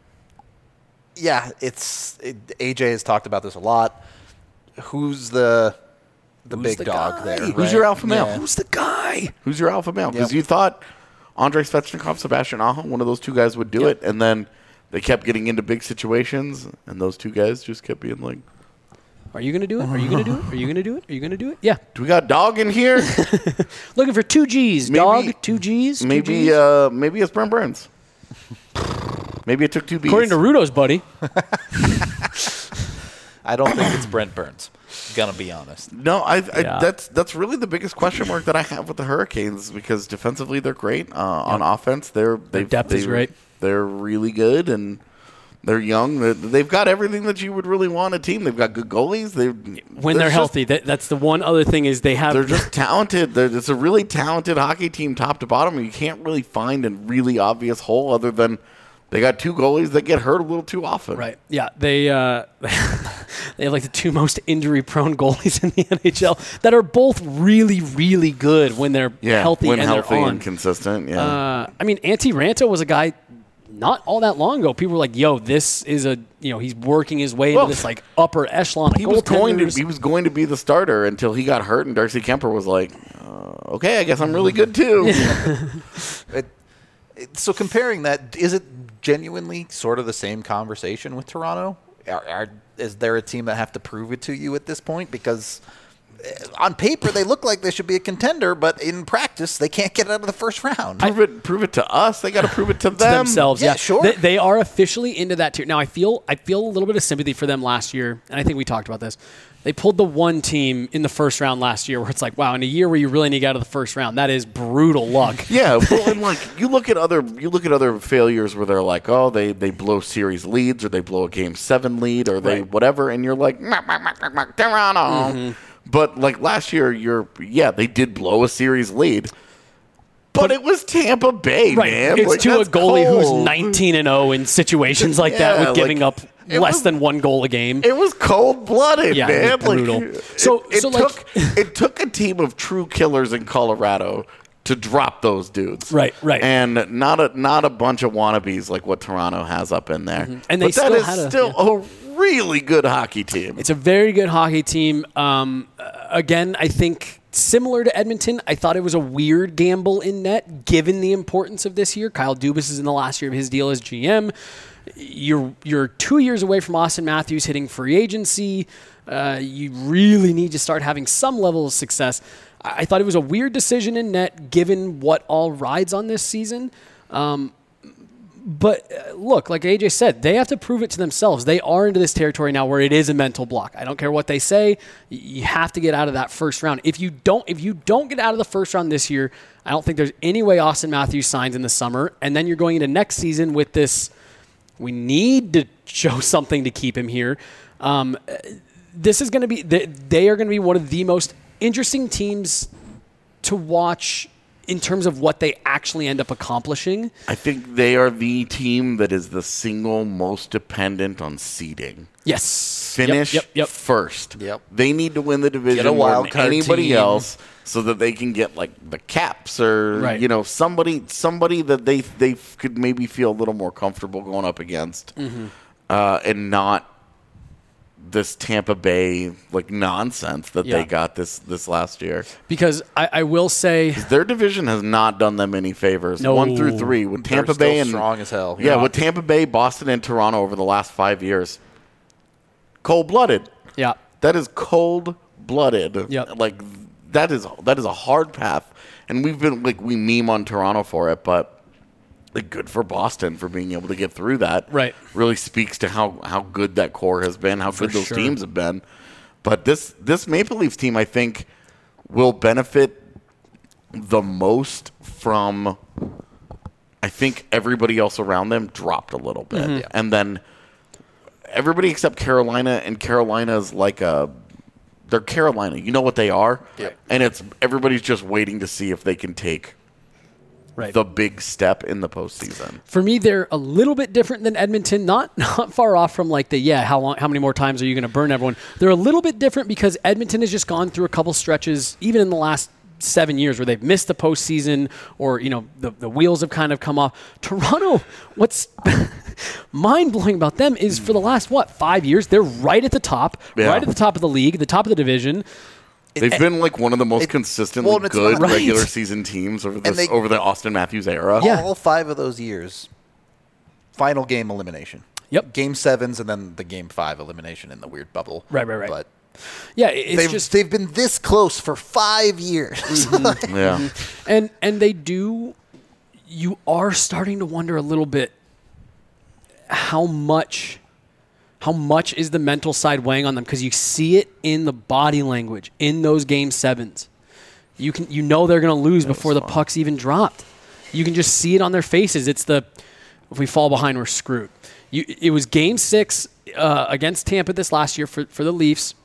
Yeah, it's it, A J has talked about this a lot. Who's the the Who's big the dog guy? there? Who's Who's right? your alpha male? Yeah. Who's the guy? Who's your alpha male? Because Yep. you thought Andrei Svechnikov, Sebastian Aho, one of those two guys would do Yep. it, and then they kept getting into big situations, and those two guys just kept being like, Are you going to do it? Are you going to do it? Are you going to do it? Are you going to do it? Yeah. do we got dog in here? Looking for two G's, Maybe- dog. Two G's. two maybe Gs. uh, maybe it's Brent Burns. Maybe it took two B's. According to Rudo's buddy. I don't think it's Brent Burns. Gonna be honest. No, I, I Yeah. that's that's really the biggest question mark that I have with the Hurricanes because defensively they're great. Uh, On offense, they're they've, depth is they've- great. They're really good and they're young. They're- They've got everything that you would really want a team. They've got good goalies. They When they're healthy, that, that's the one other thing is they have. They're just talented. They're, it's a really talented hockey team, top to bottom. You can't really find a really obvious hole other than they got two goalies that get hurt a little too often. Right. Yeah. They uh, they have like the two most injury-prone goalies in the N H L that are both really, really good when they're Yeah, healthy when and healthy they're on. and consistent. Yeah. Uh, I mean, Antti Ranta was a guy not all that long ago. People were like, "Yo, this is a you know he's working his way Well, into this like upper echelon of he was going to goaltenders." he was going to be the starter until he got hurt, and Darcy Kemper was like, uh, "Okay, I guess I'm really good too." It, it, so comparing that, is it genuinely sort of the same conversation with Toronto? Are, are, is there a team that have to prove it to you at this point? Because uh, on paper they look like they should be a contender, but in practice they can't get out of the first round. prove it, prove it to us. They got to prove it to to them. themselves. Yeah, Yeah, sure. They, they are officially into that tier. Now, I feel I feel a little bit of sympathy for them last year, and I think we talked about this. They pulled the one team in the first round last year where it's like, wow, in a year where you really need to get out of the first round, that is brutal luck. Yeah, well, and like you look at other you look at other failures where they're like, oh, they, they blow series leads or they blow a game seven lead or they Right. whatever, and you're like, "Mac, mac, mac, mac, mac, Toronto. Mm-hmm. But like last year, you're yeah, they did blow a series lead, but, it was Tampa Bay, Right. man. It's Like, to a that's goalie cold. who's nineteen and oh in situations like that Yeah, with giving like, up it less was- than one goal a game. It was cold blooded, Yeah, it man. was brutal. Like, So- it, it so, like- took it took a team of true killers in Colorado to drop those dudes. Right, right. And not a not a bunch of wannabes like what Toronto has up in there. Mm-hmm. And they but that still is had a- still yeah. a really good hockey team. It's a very good hockey team. Um, uh, again, I think similar to Edmonton, I thought it was a weird gamble in net given the importance of this year. Kyle Dubas is in the last year of his deal as G M. You're you're two years away from Austin Matthews hitting free agency. Uh, you really need to start having some level of success. I, I thought it was a weird decision in net given what all rides on this season. Um, But uh, look, like A J said, they have to prove it to themselves. They are into this territory now where it is a mental block. I don't care what they say. y- You have to get out of that first round. If you don't, if you don't get out of the first round this year, I don't think there's any way Austin Matthews signs in the summer. And then you're going into next season with this. We need to show something to keep him here. Um, uh, this is going to be. They, they are going to be one of the most interesting teams to watch in terms of what they actually end up accomplishing. I think they are the team that is the single most dependent on seeding. Yes. Yep, Finish Yep. Yep. first. Yep. They need to win the division Get a more wild than card anybody team. else, so that they can get like the Caps or Right. you know somebody somebody that they they could maybe feel a little more comfortable going up against, Mm-hmm. uh, and not this Tampa Bay like nonsense that Yeah. they got this this last year. Because I, I will say, Their division has not done them any favors. No. One through three with They're Tampa still Bay and strong as hell. Yeah, Yeah. with Tampa Bay, Boston, and Toronto over the last five years, cold blooded. yeah, That is cold blooded. Yep. Like that is that is a hard path, and we've been like we meme on Toronto for it, but like, good for Boston for being able to get through that. Right. Really speaks to how how good that core has been, how good those sure. teams have been. But this this Maple Leafs team, I think, will benefit the most from. I think everybody else around them dropped a little bit, Mm-hmm. and then everybody except Carolina, and Carolina's like a they're Carolina. You know what they are, Yep. and it's everybody's just waiting to see if they can take right. the big step in the postseason. For me, they're a little bit different than Edmonton. Not not far off from like the yeah. How long? How many more times are you going to burn everyone? They're a little bit different because Edmonton has just gone through a couple stretches, even in the last seven years, where they've missed the postseason, or you know the the wheels have kind of come off. Toronto, what's mind blowing about them is for the last what five years they're right at the top, Yeah. right at the top of the league, the top of the division. They've been like one of the most it- consistently well, and it's good not- regular Right. season teams over this they- over the Austin Matthews era. Yeah. All five of those years, final game elimination. Yep. Game sevens and then the game five elimination in the weird bubble. Right, right, right. But Yeah, it- it's they've just they've been this close for five years. Yeah. and and they do. You are starting to wonder a little bit how much, how much is the mental side weighing on them, because you see it in the body language in those game sevens. You can you know they're going to lose before the fun. puck's even dropped. You can just see it on their faces. It's the if we fall behind, we're screwed. You, it was game six uh, against Tampa this last year for for the Leafs.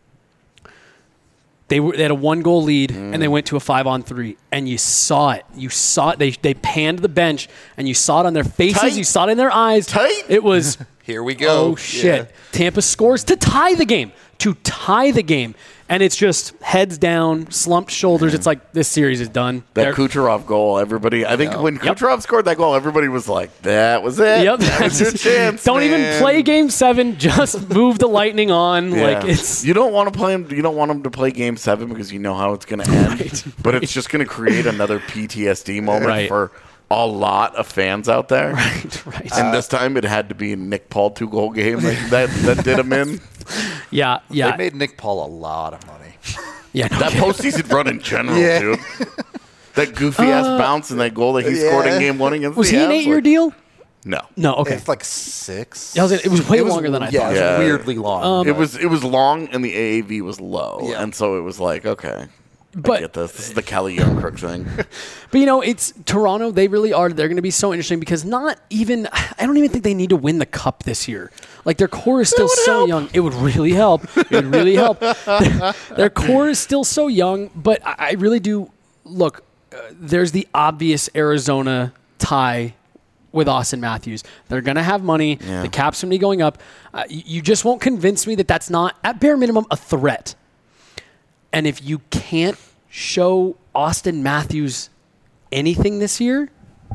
They were they had a one goal lead Mm. and they went to a five on three, and you saw it. You saw it. They they panned the bench and you saw it on their faces. Tight. You saw it in their eyes. Tight. It was Here we go. oh shit. Yeah. Tampa scores to tie the game. To tie the game. And it's just heads down, slumped shoulders. It's like this series is done. That They're- Kucherov goal, everybody. I think when Yep. Kucherov scored that goal, everybody was like, "That was it. Yep. That was your chance." Don't even man." play game seven. Just move the Lightning on. Yeah. Like it's you don't want to play him. You don't want him to play Game Seven because you know how it's going to end. Right, but it's just going to create another P T S D moment Right. for a lot of fans out there. right, right. And this time it had to be a Nick Paul two goal game that, that that did him in. yeah, yeah, They made Nick Paul a lot of money. yeah. No That kidding. postseason run in general, Yeah. dude. That goofy ass bounce and that goal that he scored in Yeah. game one against Was the he an Avs, eight-year like- deal? No. No. Okay. It's like six. I was gonna- it was way longer than I yeah, thought. It was Yeah. weirdly long. Um, It was it was long and the A A V was low, Yeah. and so it was like, okay, I But- get this. This is the Kelly Young Crook thing. But you know, it's Toronto. They really are. They're going to be so interesting because not even I don't even think they need to win the cup this year. Like their core is still would so help. young. It would really help. It would really help. Their, their core is still so young, but I, I really do look. Uh, there's the obvious Arizona tie with Austin Matthews. They're going to have money. Yeah. The cap's going to be going up. Uh, you, you just won't convince me that that's not at bare minimum a threat. And if you can't show Austin Matthews anything this year,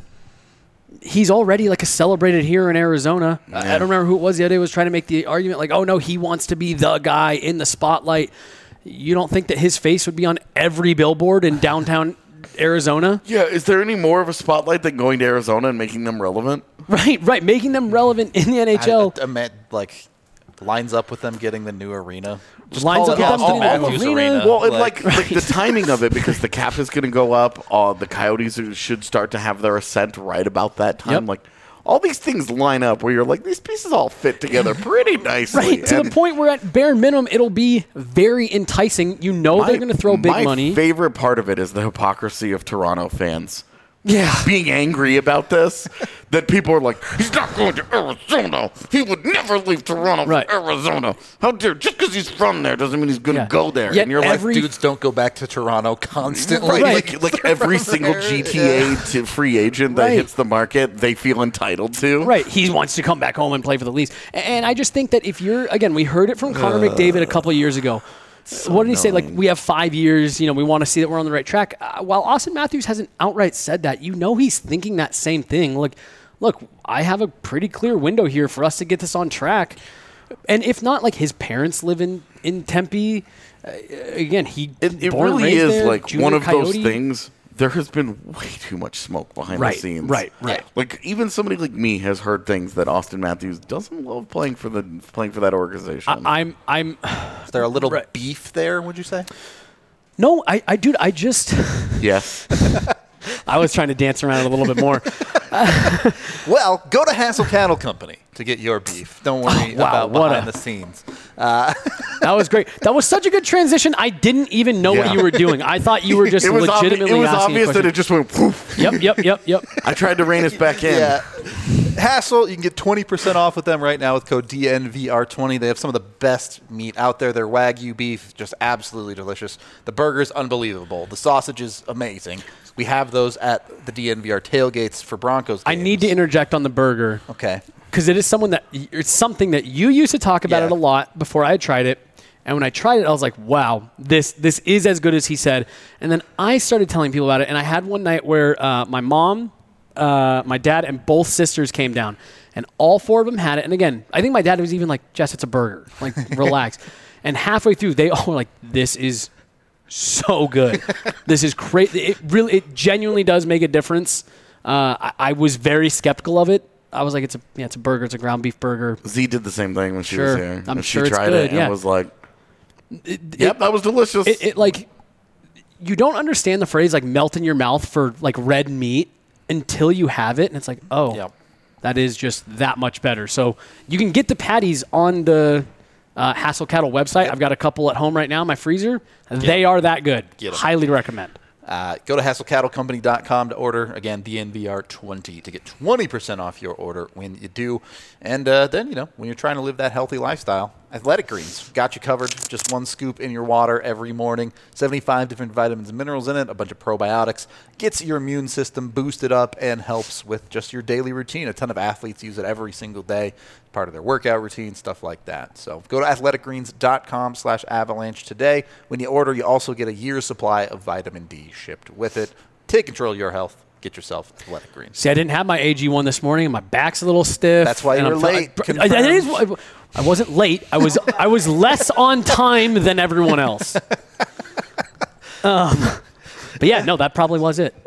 he's already like a celebrated hero in Arizona. I- I Yeah. don't remember who it was the other day was trying to make the argument like, oh no, he wants to be the guy in the spotlight. You don't think that his face would be on every billboard in downtown Arizona? Yeah, is there any more of a spotlight than going to Arizona and making them relevant? Right, right. Making them relevant in the N H L. I, I meant like lines up with them getting the new arena. Just Lines call up it with them Austin getting the Matthews arena. Arena. Well, and like, like the timing of it, because the cap is going to go up. Uh, the Coyotes are- should start to have their ascent right about that time. Yep. Like, all these things line up where you're like, these pieces all fit together pretty nicely. Right, to the And point where at bare minimum it'll be very enticing. You know my- they're going to throw big my money. favorite part of it is the hypocrisy of Toronto fans. Yeah. Being angry about this, that people are like, he's not going to Arizona. He would never leave Toronto Right. for Arizona. How dare, just because he's from there doesn't mean he's going to Yeah. go there. Yet and you're every- like, Dudes don't go back to Toronto constantly. right, Right. like, like every single there, G T A yeah. to free agent that Right. hits the market, they feel entitled to. Right, he wants to come back home and play for the Leafs. And I just think that if you're, again, we heard it from Connor McDavid a couple of years ago. What did he say? Like, we have five years, you know, we want to see that we're on the right track. Uh, while Austin Matthews hasn't outright said that, you know he's thinking that same thing. Like, look, I have a pretty clear window here for us to get this on track. And if not, like, his parents live in, in Tempe. Uh, again, he It, it born and really raised is there, like junior one of those Coyote. things. There has been way too much smoke behind Right, the scenes. right, right. Like even somebody like me has heard things that Austin Matthews doesn't love playing for the playing for that organization. I, I'm, I'm, Is there a little Right. beef there, would you say? no, I, I, dude, I just, yes. I was trying to dance around it a little bit more. Well, go to Hassel Cattle Company to get your beef. Don't worry wow, about what behind a- the scenes. That was great. That was such a good transition. I didn't even know Yeah. what you were doing. I thought you were just it was, obvi- legitimately it was asking obvious a that question. it just went poof. Yep, yep, yep, yep. I tried to rein us back in. Yeah. Hassel, you can get twenty percent off with them right now with code D N V R twenty. They have some of the best meat out there. Their Wagyu beef, just absolutely delicious. The burger's unbelievable. The sausage is amazing. We have those at the D N V R tailgates for Broncos I games. need to interject on the burger Okay. because it is someone that it's something that you used to talk about Yeah. it a lot before I had tried it. And when I tried it, I was like, wow, this this is as good as he said. And then I started telling people about it. And I had one night where uh, my mom, uh, my dad, and both sisters came down. And all four of them had it. And again, I think my dad was even like, Jess, it's a burger. Like, relax. And halfway through, they all were like, this is so good. This is crazy. It really, it genuinely does make a difference. Uh, I, I was very skeptical of it. I was like, it's a, yeah, it's a burger. It's a ground beef burger. Z did the same thing when she Sure. was here. I'm And sure she it's tried good, it yeah. and was like, It, "Yep, it, that was delicious." it, it like you don't understand the phrase like melt in your mouth for like red meat until you have it, and it's like, oh, Yep. that is just that much better. So you can get the patties on the uh, Hassel Cattle website. I've got a couple at home right now in my freezer. They are that good. Get 'em. Highly recommend. Uh, go to hassel cattle company dot com to order. Again, D N V R twenty to get twenty percent off your order when you do. And uh, then, you know, when you're trying to live that healthy lifestyle, Athletic Greens got you covered. Just one scoop in your water every morning. seventy-five different vitamins and minerals in it, a bunch of probiotics. Gets your immune system boosted up and helps with just your daily routine. A ton of athletes use it every single day, part of their workout routine, stuff like that. So go to athletic greens dot com slash avalanche today. When you order, you also get a year's supply of vitamin D shipped with it. Take control of your health. Get yourself Athletic Greens. See, I didn't have my A G one this morning, and my back's a little stiff. That's why you and were I'm- late. I, I, it is- I wasn't late. I was I was less on time than everyone else. Um, but yeah, no, that probably was it.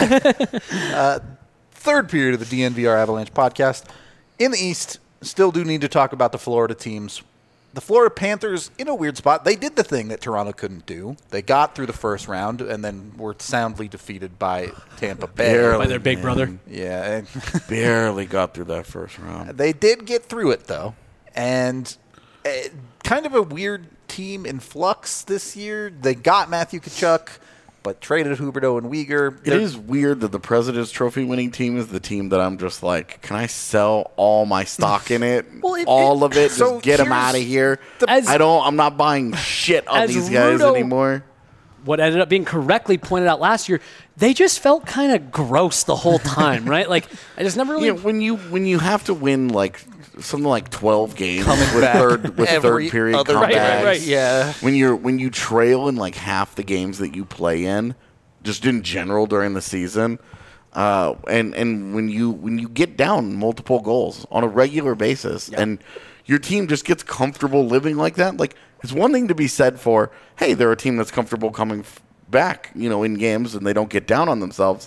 Third period of the D N V R Avalanche podcast. In the East, still do need to talk about the Florida teams. The Florida Panthers, in a weird spot, they did the thing that Toronto couldn't do. They got through the first round and then were soundly defeated by Tampa Bay. Barely. By their big man. brother. Yeah. and Barely got through that first round. They did get through it, though. And uh, kind of a weird team in flux this year. They got Matthew Tkachuk, but traded Huberdeau and Weegar. It They're- is weird that the President's Trophy winning team is the team that I'm just like, can I sell all my stock in it? Well, it- all it- of it? so just get them here's out of here. the- As- I don't. I'm not buying shit on as these guys Rudo- anymore. What ended up being correctly pointed out last year, they just felt kind of gross the whole time, right? Like, I just never really. You know, when you when you have to win like something like twelve games Coming with back third with every third period other- comebacks, Right, right, right. Yeah. when you're when you trail in like half the games that you play in, just in general during the season, uh, and and when you when you get down multiple goals on a regular basis, and your team just gets comfortable living like that, like it's one thing to be said for, hey, they're a team that's comfortable coming f- back, you know, in games, and they don't get down on themselves.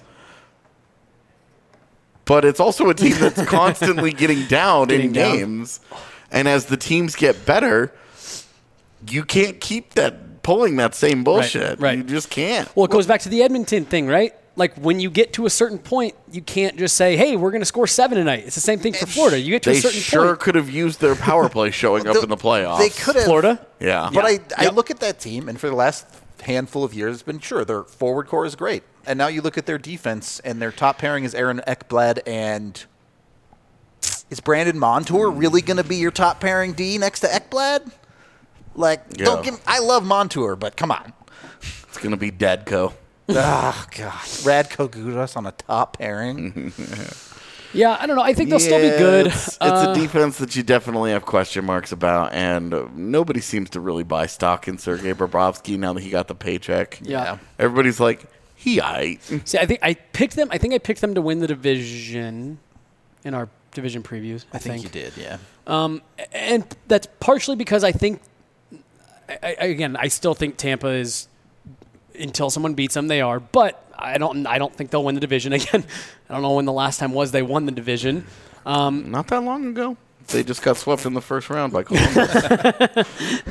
But it's also a team that's constantly getting down Getting in down. games, and as the teams get better, you can't keep that pulling that same bullshit. right. You just can't. Well, it goes back to the Edmonton thing, right? Like, when you get to a certain point, you can't just say, hey, we're going to score seven tonight. It's the same thing for Florida. You get to They a certain sure point. could have used their power play showing up in the playoffs. They could have. Florida? Yeah. But Yeah. I, I Yep. look at that team, and for the last handful of years, it's been sure their forward core is great. And now you look at their defense, and their top pairing is Aaron Ekblad, and is Brandon Montour really going to be your top pairing D next to Ekblad? Like, Yeah. don't give. I love Montour, but come on. It's going to be Dadco. Oh God, Radko Gudas on a top pairing. Yeah, I don't know. I think they'll still be good. It's, it's Uh, a defense that you definitely have question marks about, and uh, nobody seems to really buy stock in Sergei Bobrovsky now that he got the paycheck. Yeah. Everybody's like, he aight. See, I think I picked them. I think I picked them to win the division in our division previews. I, I think you did, yeah. Um, and that's partially because I think, I, I, again, I still think Tampa is, until someone beats them, they are. But I don't. I don't think they'll win the division again. I don't know when the last time was they won the division. Um, Not that long ago. They just got swept in the first round by Columbus.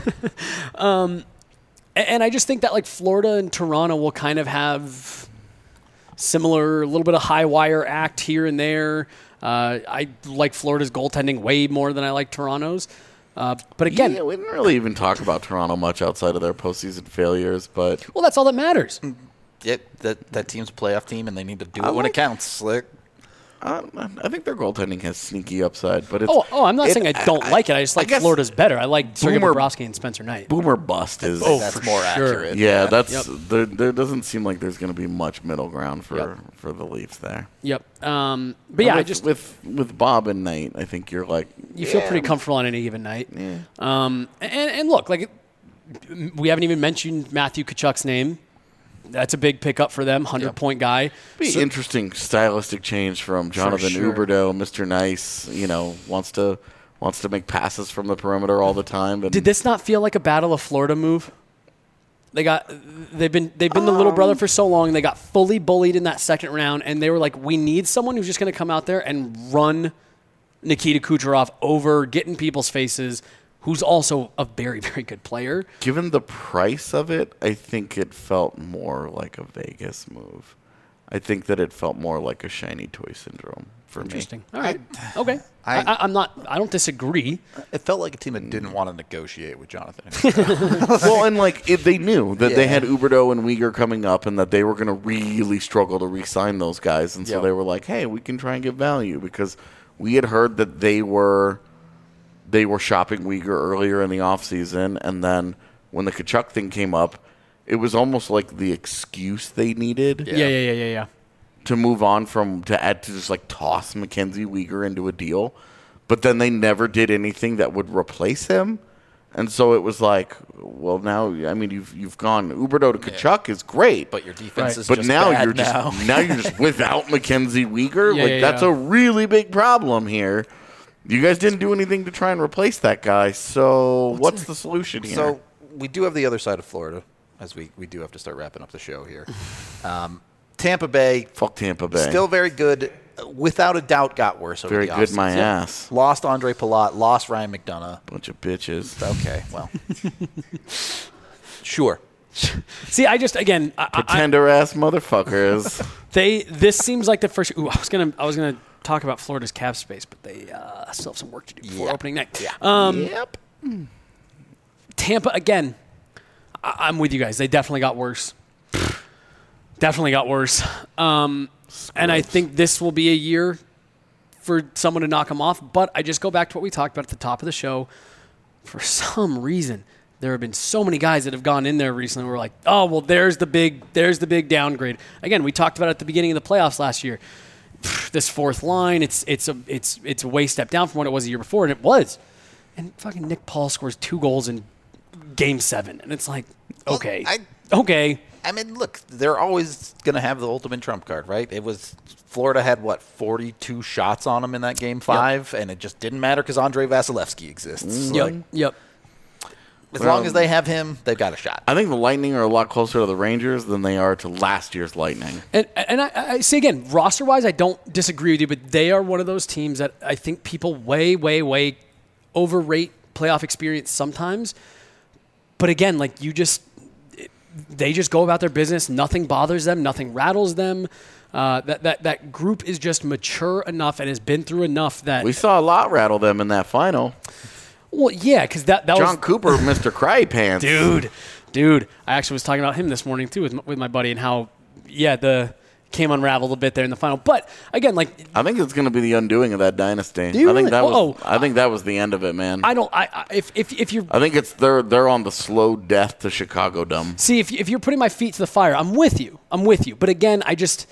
and, and I just think that like Florida and Toronto will kind of have similar, a little bit of high wire act here and there. Uh, I like Florida's goaltending way more than I like Toronto's. Uh, but again, yeah, we didn't really even talk about Toronto much outside of their postseason failures, but well, that's all that matters. Yeah, that that team's a playoff team, and they need to do it I when it like- counts. Like, uh, I think their goaltending has sneaky upside. But it's, Oh, oh, I'm not it- saying I don't like it. I just like guess Florida's better. I like Sergei Boomer- Bobrovsky and Spencer Knight. Boomer bust is. Oh, that's for more sure. accurate. yeah, that's Yep. there. There doesn't seem like there's going to be much middle ground for Yep. for the Leafs there. Yep. Um, but yeah, with, I just with with Bob and Knight, I think you're like you feel yeah, pretty comfortable on any given night. Yeah. Um, and, and look, like we haven't even mentioned Matthew Tkachuk's name. That's a big pickup for them, hundred point guy. Be So- interesting stylistic change from Jonathan sure. Huberdeau, Mister Nice. You know, wants to wants to make passes from the perimeter all the time. And Did this not feel like a Battle of Florida move? They got they've been they've been the little brother for so long. They got fully bullied in that second round, and they were like, we need someone who's just going to come out there and run Nikita Kucherov over, get in people's faces, who's also a very, very good player. Given the price of it, I think it felt more like a Vegas move. I think that it felt more like a shiny toy syndrome for Interesting. me. All right. okay. I- I, I, I'm not. I don't disagree. It felt like a team that didn't want to negotiate with Jonathan. Well, and like it, they knew that they Yeah. had Huberdeau and Weegar coming up, and that they were going to really struggle to re-sign those guys, and so Yep. they were like, "Hey, we can try and get value," because we had heard that they were they were shopping Weegar earlier in the offseason, and then when the Kachuk thing came up, it was almost like the excuse they needed Yeah. Yeah. Yeah. Yeah. Yeah. to move on from to add to just like toss Mackenzie Weegar into a deal, but then they never did anything that would replace him, and so it was like, well, now I mean you've you've gone Huberdeau to Kachuk is great, But your defense Right. is but just now bad you're just now. now you're just without Mackenzie Weegar. Yeah, like yeah, that's yeah. a really big problem here. You guys didn't do anything to try and replace that guy, so what's, the solution here? So we do have the other side of Florida, as we, we do have to start wrapping up the show here. Um, Tampa Bay, fuck Tampa Bay. still very good. Without a doubt, got worse over Very the good, offseason. my ass. Lost Andre Palat, lost Ryan McDonough. Bunch of bitches. Okay, well, sure. See, I just again, I, I, Pretender ass motherfuckers. they this seems like the first. Ooh, I was gonna I was gonna talk about Florida's cap space, but they uh, still have some work to do before Yeah. opening night. Yeah. Um, Yep. Tampa again. I, I'm with you guys. They definitely got worse. Definitely got worse. Um, and I think this will be a year for someone to knock them off. But I just go back to what we talked about at the top of the show. For some reason, there have been so many guys that have gone in there recently. We're like, oh well, there's the big, there's the big downgrade. Again, we talked about it at the beginning of the playoffs last year. This fourth line, it's it's a it's it's a way step down from what it was the year before, and it was. And fucking Nick Paul scores two goals in Game Seven, and it's like, okay, I- okay. I mean, look, they're always going to have the ultimate trump card, right? It was Florida had, what, forty-two shots on them in that game five, and it just didn't matter because Andrei Vasilevsky exists. Yep, Like, yep. as Well, long as they have him, they've got a shot. I think the Lightning are a lot closer to the Rangers than they are to last year's Lightning. And and I, I say again, roster wise, I don't disagree with you, but they are one of those teams that I think people way, way, way overrate playoff experience sometimes. But again, like you just, they just go about their business. Nothing bothers them. Nothing rattles them. Uh, that that that group is just mature enough and has been through enough that. We saw a lot rattle them in that final. Well, yeah, because that that John was Cooper, Mister Cry Pants. dude, dude. I actually was talking about him this morning too with my, with my buddy and how, yeah, the came unraveled a bit there in the final. But again, like I think it's going to be the undoing of that dynasty. Do you I think really? that was. Oh, I think that was the end of it, man. I, I don't. I, I if if if you're think it's they're they're on the slow death to Chicago dumb. see if if you're putting my feet to the fire, I'm with you. I'm with you. But again, I just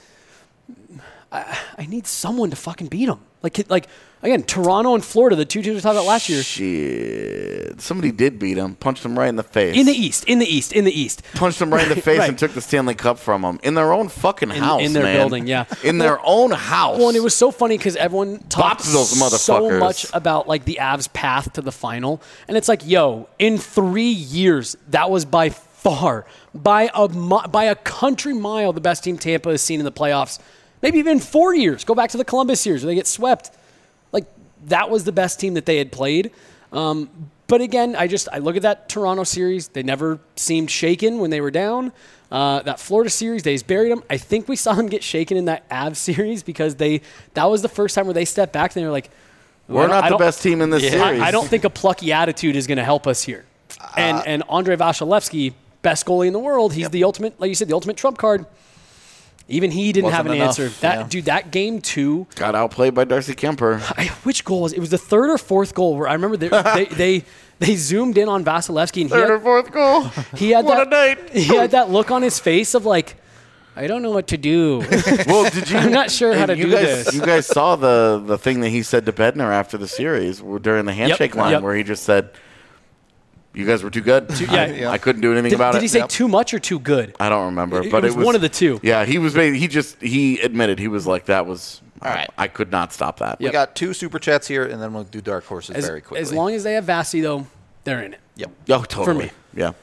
I, I need someone to fucking beat them. Like like again, Toronto and Florida, the two teams we talked about last year. Shit, somebody did beat him. Punched him right in the face. In the East, in the East, in the East. Punched him right in the face Right. and took the Stanley Cup from him in their own fucking house, in their man. building, yeah. in their own house. Well, and it was so funny because everyone talked Bopped those so motherfuckers. much about like the Avs' path to the final, and it's like, yo, in three years, that was by far, by a mi- by a country mile, the best team Tampa has seen in the playoffs. Maybe even four years. Go back to the Columbus series where they get swept. Like that was the best team that they had played. Um, but again, I just I look at that Toronto series. They never seemed shaken when they were down. Uh, that Florida series, they just buried them. I think we saw them get shaken in that Avs series because they that was the first time where they stepped back and they were like, We're I don't- not I the don't- best team in this Yeah. series. I, I don't think a plucky attitude is going to help us here. And and Andrei Vasilevsky, best goalie in the world, he's the ultimate, like you said, the ultimate trump card. Even he didn't have Wasn't an enough, answer. That yeah. dude, that game two. Got outplayed by Darcy Kemper. I, which goal was it? It was the third or fourth goal where I remember they they, they they zoomed in on Vasilevsky and he Third or had, fourth goal. he had What that a night. he had that look on his face of like, I don't know what to do. Well, did you? I'm not sure how to you do guys, this. You guys saw the the thing that he said to Bednar after the series where- during the handshake line, yep. where he just said, "You guys were too good. yeah. I, I couldn't do anything Did, about did it." he say Yep. too much or too good? I don't remember, It- but it it was one of the two. Yeah, he was. He just he admitted he was like that was. All right. I, I could not stop that. We got two super chats here, and then we'll do dark horses As, very quickly. as long as they have Vasi though, they're in it. Yep. Oh, totally. me. Yeah.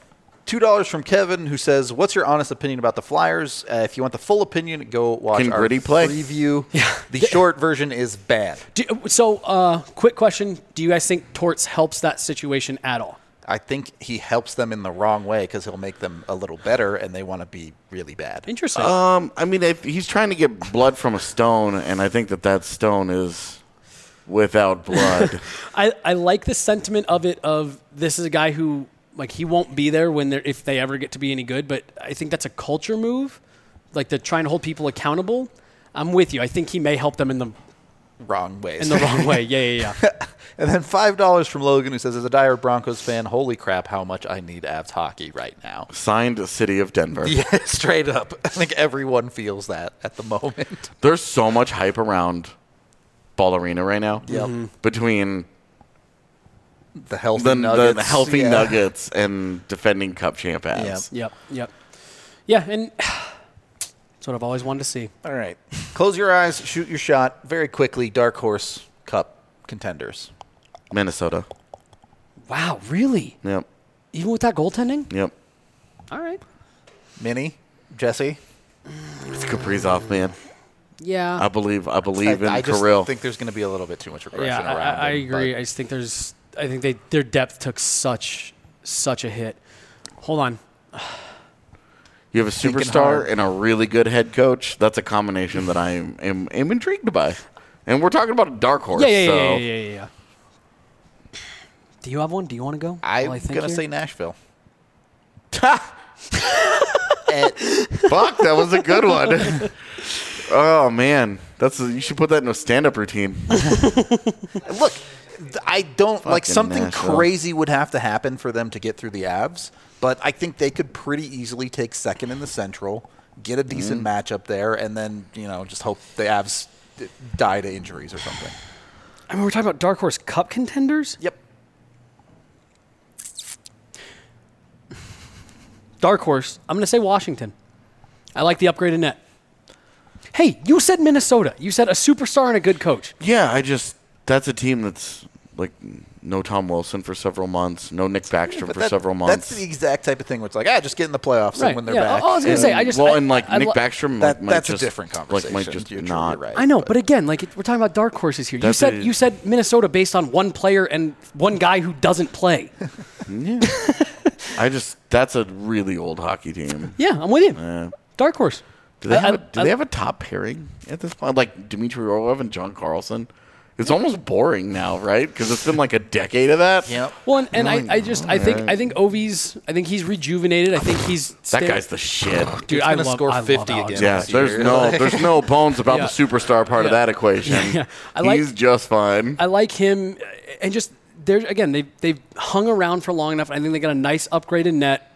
two dollars from Kevin, who says, what's your honest opinion about the Flyers? Uh, if you want the full opinion, go watch Can our Gritty play? preview. Yeah. The short version is bad. Do, so, uh, quick question. Do you guys think Torts helps that situation at all? I think he helps them in the wrong way because he'll make them a little better, and they want to be really bad. Interesting. Um, I mean, if he's trying to get blood from a stone, and I think that that stone is without blood. I, I like the sentiment of it of this is a guy who, like, he won't be there when they're, if they ever get to be any good, but I think that's a culture move, like they're trying to hold people accountable. I'm with you. I think he may help them in the wrong ways. In the wrong way, yeah, yeah, yeah. And then five dollars from Logan, who says, as a dire Broncos fan, holy crap, how much I need Avs hockey right now. Signed City of Denver. Yeah, straight up. I think everyone feels that at the moment. There's so much hype around Ball Arena right now. Yep. Mm-hmm. Between the healthy the, Nuggets, the healthy yeah. Nuggets and defending Cup champ Avs. Yep, yep. Yeah, and that's what I've always wanted to see. All right. Close your eyes, shoot your shot. Very quickly, Dark Horse Cup contenders. Minnesota. Wow, really? Yep. Even with that goaltending? Yep. All right. Minnie, Jesse. It's Kaprizov, man. Yeah. I believe. I believe I, in I just Kirill. think there's going to be a little bit too much regression yeah, I, around I, I him, agree. but- I just think there's. I think they their depth took such such a hit. Hold on. You have a Thinking superstar hard. and a really good head coach. That's a combination that I am, am, am intrigued by. And we're talking about a dark horse. Yeah, yeah, so. yeah, yeah, yeah, yeah, yeah. Do you have one? Do you want to go? I'm while I think going to here? say Nashville. Fuck, that was a good one. Oh, man. That's a, you should put that in a stand-up routine. Look, th- I don't like Fucking something Nashville. crazy would have to happen for them to get through the Avs, but I think they could pretty easily take second in the Central, get a decent Mm-hmm. matchup there, and then you know just hope the Avs d- die to injuries or something. I mean, we're talking about Dark Horse Cup contenders. Yep. Dark Horse. I'm going to say Washington. I like the upgraded net. Hey, you said Minnesota. You said a superstar and a good coach. Yeah, I just – that's a team that's like no Tom Wilson for several months, no Nick Backstrom But for that- several months. That's the exact type of thing where it's like, ah, just get in the playoffs Right, and when they're yeah. back. I was gonna And- say, I just- well, I- and like I Nick lo- Backstrom that, like, might that's just, a different like, conversation. might just You're, not. you're right. I know, but again, like we're talking about dark horses here. You That's said a- you said Minnesota based on one player and one guy who doesn't play. Yeah. I just – that's a really old hockey team. Yeah, I'm with you. Yeah. Dark horse. Do they I- have, I- a, do I- they have a top pairing at this point? Like Dmitry Orlov and John Carlson? It's almost boring now, right? Because it's been like a decade of that. Yep. Well, and, and Really? I, I just I think Alright. I think Ovi's I think he's rejuvenated. I think he's That sta- guy's the shit. dude. He's I gonna love score I love fifty Alex. again. Yeah, this there's year. no there's no bones about Yeah. the superstar part of Yeah. that equation. Yeah. I like- He's just fine. I like him, and just there again. They they've hung around for long enough. I think they got a nice upgraded net.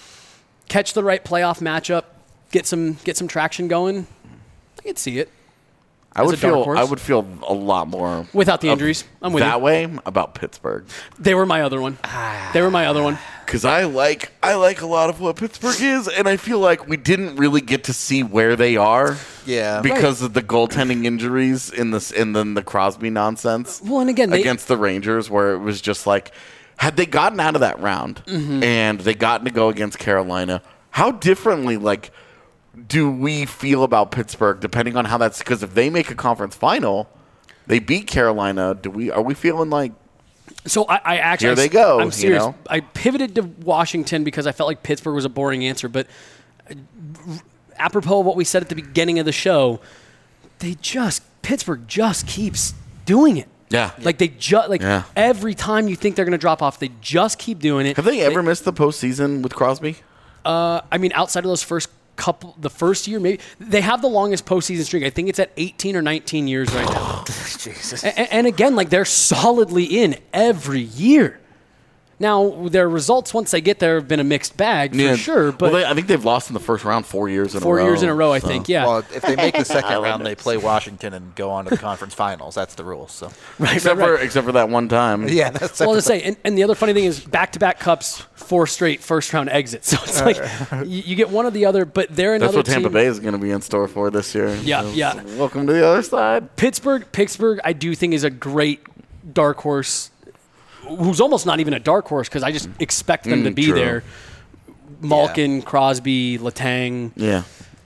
Catch the right playoff matchup, get some get some traction going. I could see it I as would a dark feel horse. I would feel a lot more without the of injuries. I'm with that you. way about Pittsburgh They were my other one. They were my other one. because I like I like a lot of what Pittsburgh is, and I feel like we didn't really get to see where they are. Yeah. because of the goaltending injuries in this and then the Crosby nonsense. Well, and again, they, against the Rangers, where it was just like, had they gotten out of that round Mm-hmm. and they gotten to go against Carolina, how differently like do we feel about Pittsburgh depending on how that's because if they make a conference final, they beat Carolina. Do we are we feeling like So I, I actually Here they go, I'm you serious. know? I pivoted to Washington because I felt like Pittsburgh was a boring answer, but uh, apropos of what we said at the beginning of the show, they just Pittsburgh just keeps doing it. yeah? Like they just like Yeah. every time you think they're going to drop off, they just keep doing it. Have they ever missed the postseason with Crosby? Uh, I mean, outside of those first couple, the first year, maybe they have the longest postseason streak. I think it's at eighteen or nineteen years right now. Jesus. And, and again, like they're solidly in every year. Now, their results once they get there have been a mixed bag for sure, but well, they, I think they've lost in the first round four years in four a row. years in a row, I so. think. Yeah, Well, if they make the second round, they Islanders. play Washington and go on to the conference finals. That's the rules. So, right, Except right, for right. except for that one time. yeah, that's Well, to say, and, and the other funny thing is back-to-back cups, four straight first-round exits. So it's like you, you get one or the other, but they're That's another what Tampa team. Bay is going to be in store for this year. Yeah, So, yeah. Welcome to the other side. Pittsburgh, Pittsburgh, I do think is a great dark horse, who's almost not even a dark horse because I just expect them Mm, to be true. there. Malkin, Crosby, Letang. Yeah.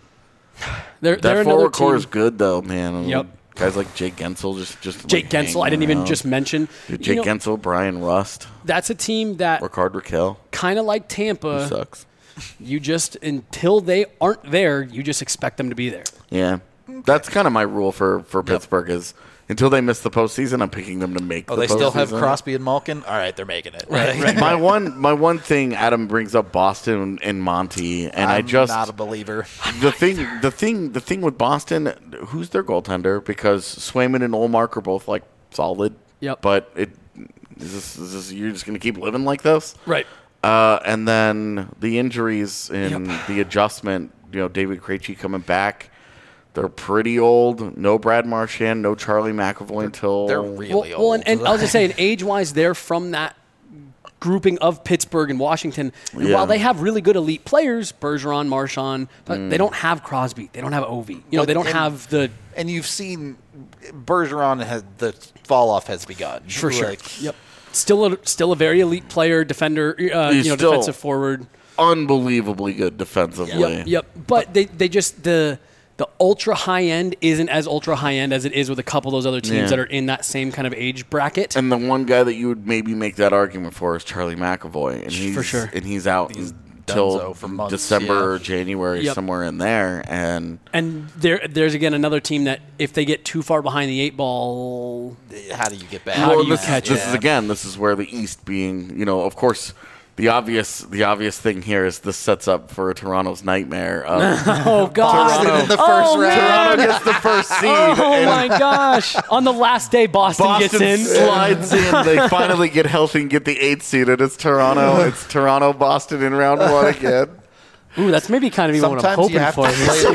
They're, That they're another forward core team. is good, though, man. Yep. Guys like Jake Gensel just just Jake like, Gensel, I didn't hanging even around. just mention. Dude, You Jake know, Gensel, Brian Rust, that's a team that Ricard Raquel. kind of like Who Tampa. sucks. You just, until they aren't there, you just expect them to be there. Yeah. That's kind of my rule for, for Pittsburgh is until they miss the postseason, I'm picking them to make Oh, the they still have postseason. Crosby and Malkin? All right, they're making it. Right, right. my one my one thing Adam brings up Boston and Monty, and I I'm just not a believer. the thing the thing the thing with Boston, who's their goaltender? Because Swayman and Olmark are both like solid. Yep. But it is this, is this you're just gonna keep living like this? Right. Uh, and then the injuries and Yep. the adjustment, you know, David Krejci coming back. They're pretty old. No Brad Marchand, no Charlie McAvoy until They're really Well, old. well and, and I'll just say, age-wise, they're from that grouping of Pittsburgh and Washington. And Yeah. while they have really good elite players, Bergeron, Marchand, but they don't have Crosby. They don't have Ovi. You know, But- they don't and- have the and you've seen Bergeron has the fall off has begun for sure. Like, Yep. Still a still a very elite player, defender, uh, He's you know, still- defensive forward. unbelievably good defensively. Yep, yep. But they, they just the the ultra high end isn't as ultra high end as it is with a couple of those other teams Yeah. that are in that same kind of age bracket. And the one guy that you would maybe make that argument for is Charlie McAvoy, and he's For sure. and he's out He's until donezo for months, December yeah. or January, Yep. somewhere in there. And And there, there's again another team that if they get too far behind the eight ball, how do you get back? How do well, you this, catch this it? is again, this is where the East being, you know, of course. The obvious, the obvious thing here is this sets up for Toronto's nightmare. Of oh god, Boston in the first oh, round. man. Toronto gets the first seed. Oh and my gosh! On the last day, Boston, Boston gets in. slides in. They finally get healthy and get the eighth seed. And it's Toronto. It's Toronto, Boston in round one again. Ooh, that's maybe kind of even what I'm Sometimes you hoping have for. to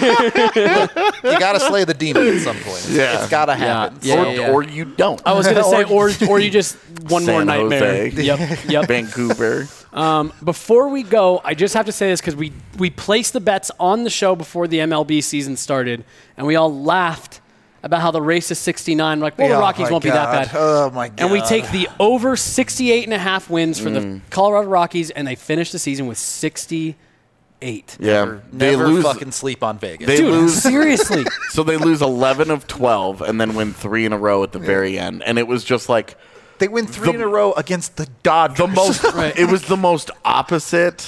slay. You got to slay the demon at some point. Yeah. It's got to happen. Yeah, or, yeah, yeah. or you don't. I was gonna say, Or- or or you just one more San nightmare. Jose. Yep, yep. Vancouver. Um, before we go, I just have to say this because we we placed the bets on the show before the M L B season started, and we all laughed about how the race is sixty-nine. We're like, well, the Oh, Rockies my won't be God. that bad. Oh my god! And we take the over sixty-eight and a half wins for Mm. the Colorado Rockies, and they finish the season with sixty-eight. Yeah, Never, they never lose. fucking sleep on Vegas. They Dude, lose. seriously. So they lose eleven of twelve, and then win three in a row at the very end. And it was just like They win three The- in a row against the Dodgers. the most. Right. It was the most opposite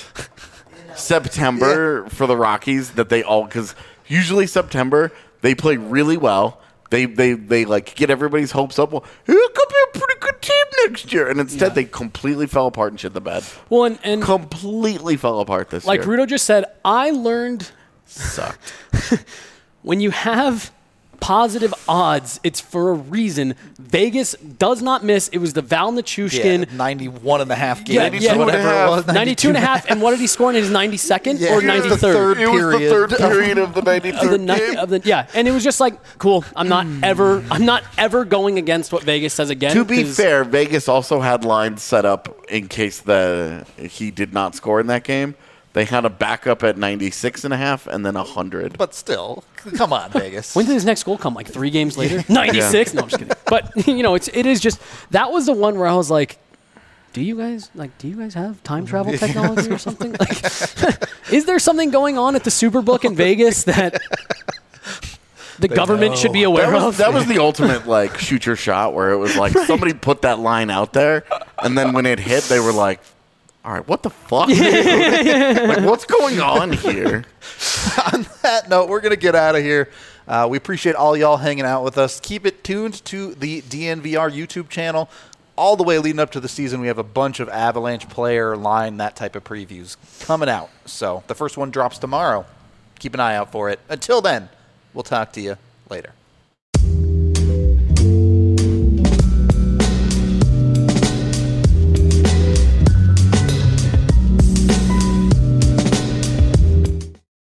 September for the Rockies that they all because usually September they play really well. They they they like get everybody's hopes up. Well, it could be a pretty good team next year, and instead Yeah. they completely fell apart and shit the bed. Well, and, and Completely fell apart this like year. Rudo just said, I learned Sucked. when you have positive odds, it's for a reason. Vegas does not miss. It was the Val yeah, Nichushkin. ninety-one and a half Yeah, games, yeah. or whatever it was. ninety-two and a half. And what did he score in his ninety-second Yeah, or it was the ninety-third? third It was the period. third period of the Of the, ninety-third ni- game. of the, yeah, and it was just like, cool. I'm not ever, I'm not ever going against what Vegas says again. To be 'cause- fair, Vegas also had lines set up in case the he did not score in that game. They had a backup at ninety-six and a half and then one hundred. But still, come on, Vegas. when did his next goal come? Like three games later? ninety-six? No, I'm just kidding. But, you know, it's, it is just, that was the one where I was like, do you guys, like, do you guys have time travel technology or something? Like, is there something going on at the Superbook in Vegas that the government know. should be aware That was, of? that was the ultimate like shoot your shot where it was like somebody put that line out there and then when it hit they were like, all right, what the fuck? Like what's going on here? On that note, we're going to get out of here. Uh, we appreciate all y'all hanging out with us. Keep it tuned to the D N V R YouTube channel. All the way leading up to the season, we have a bunch of Avalanche player line, that type of previews coming out. So the first one drops tomorrow. Keep an eye out for it. Until then, we'll talk to you later.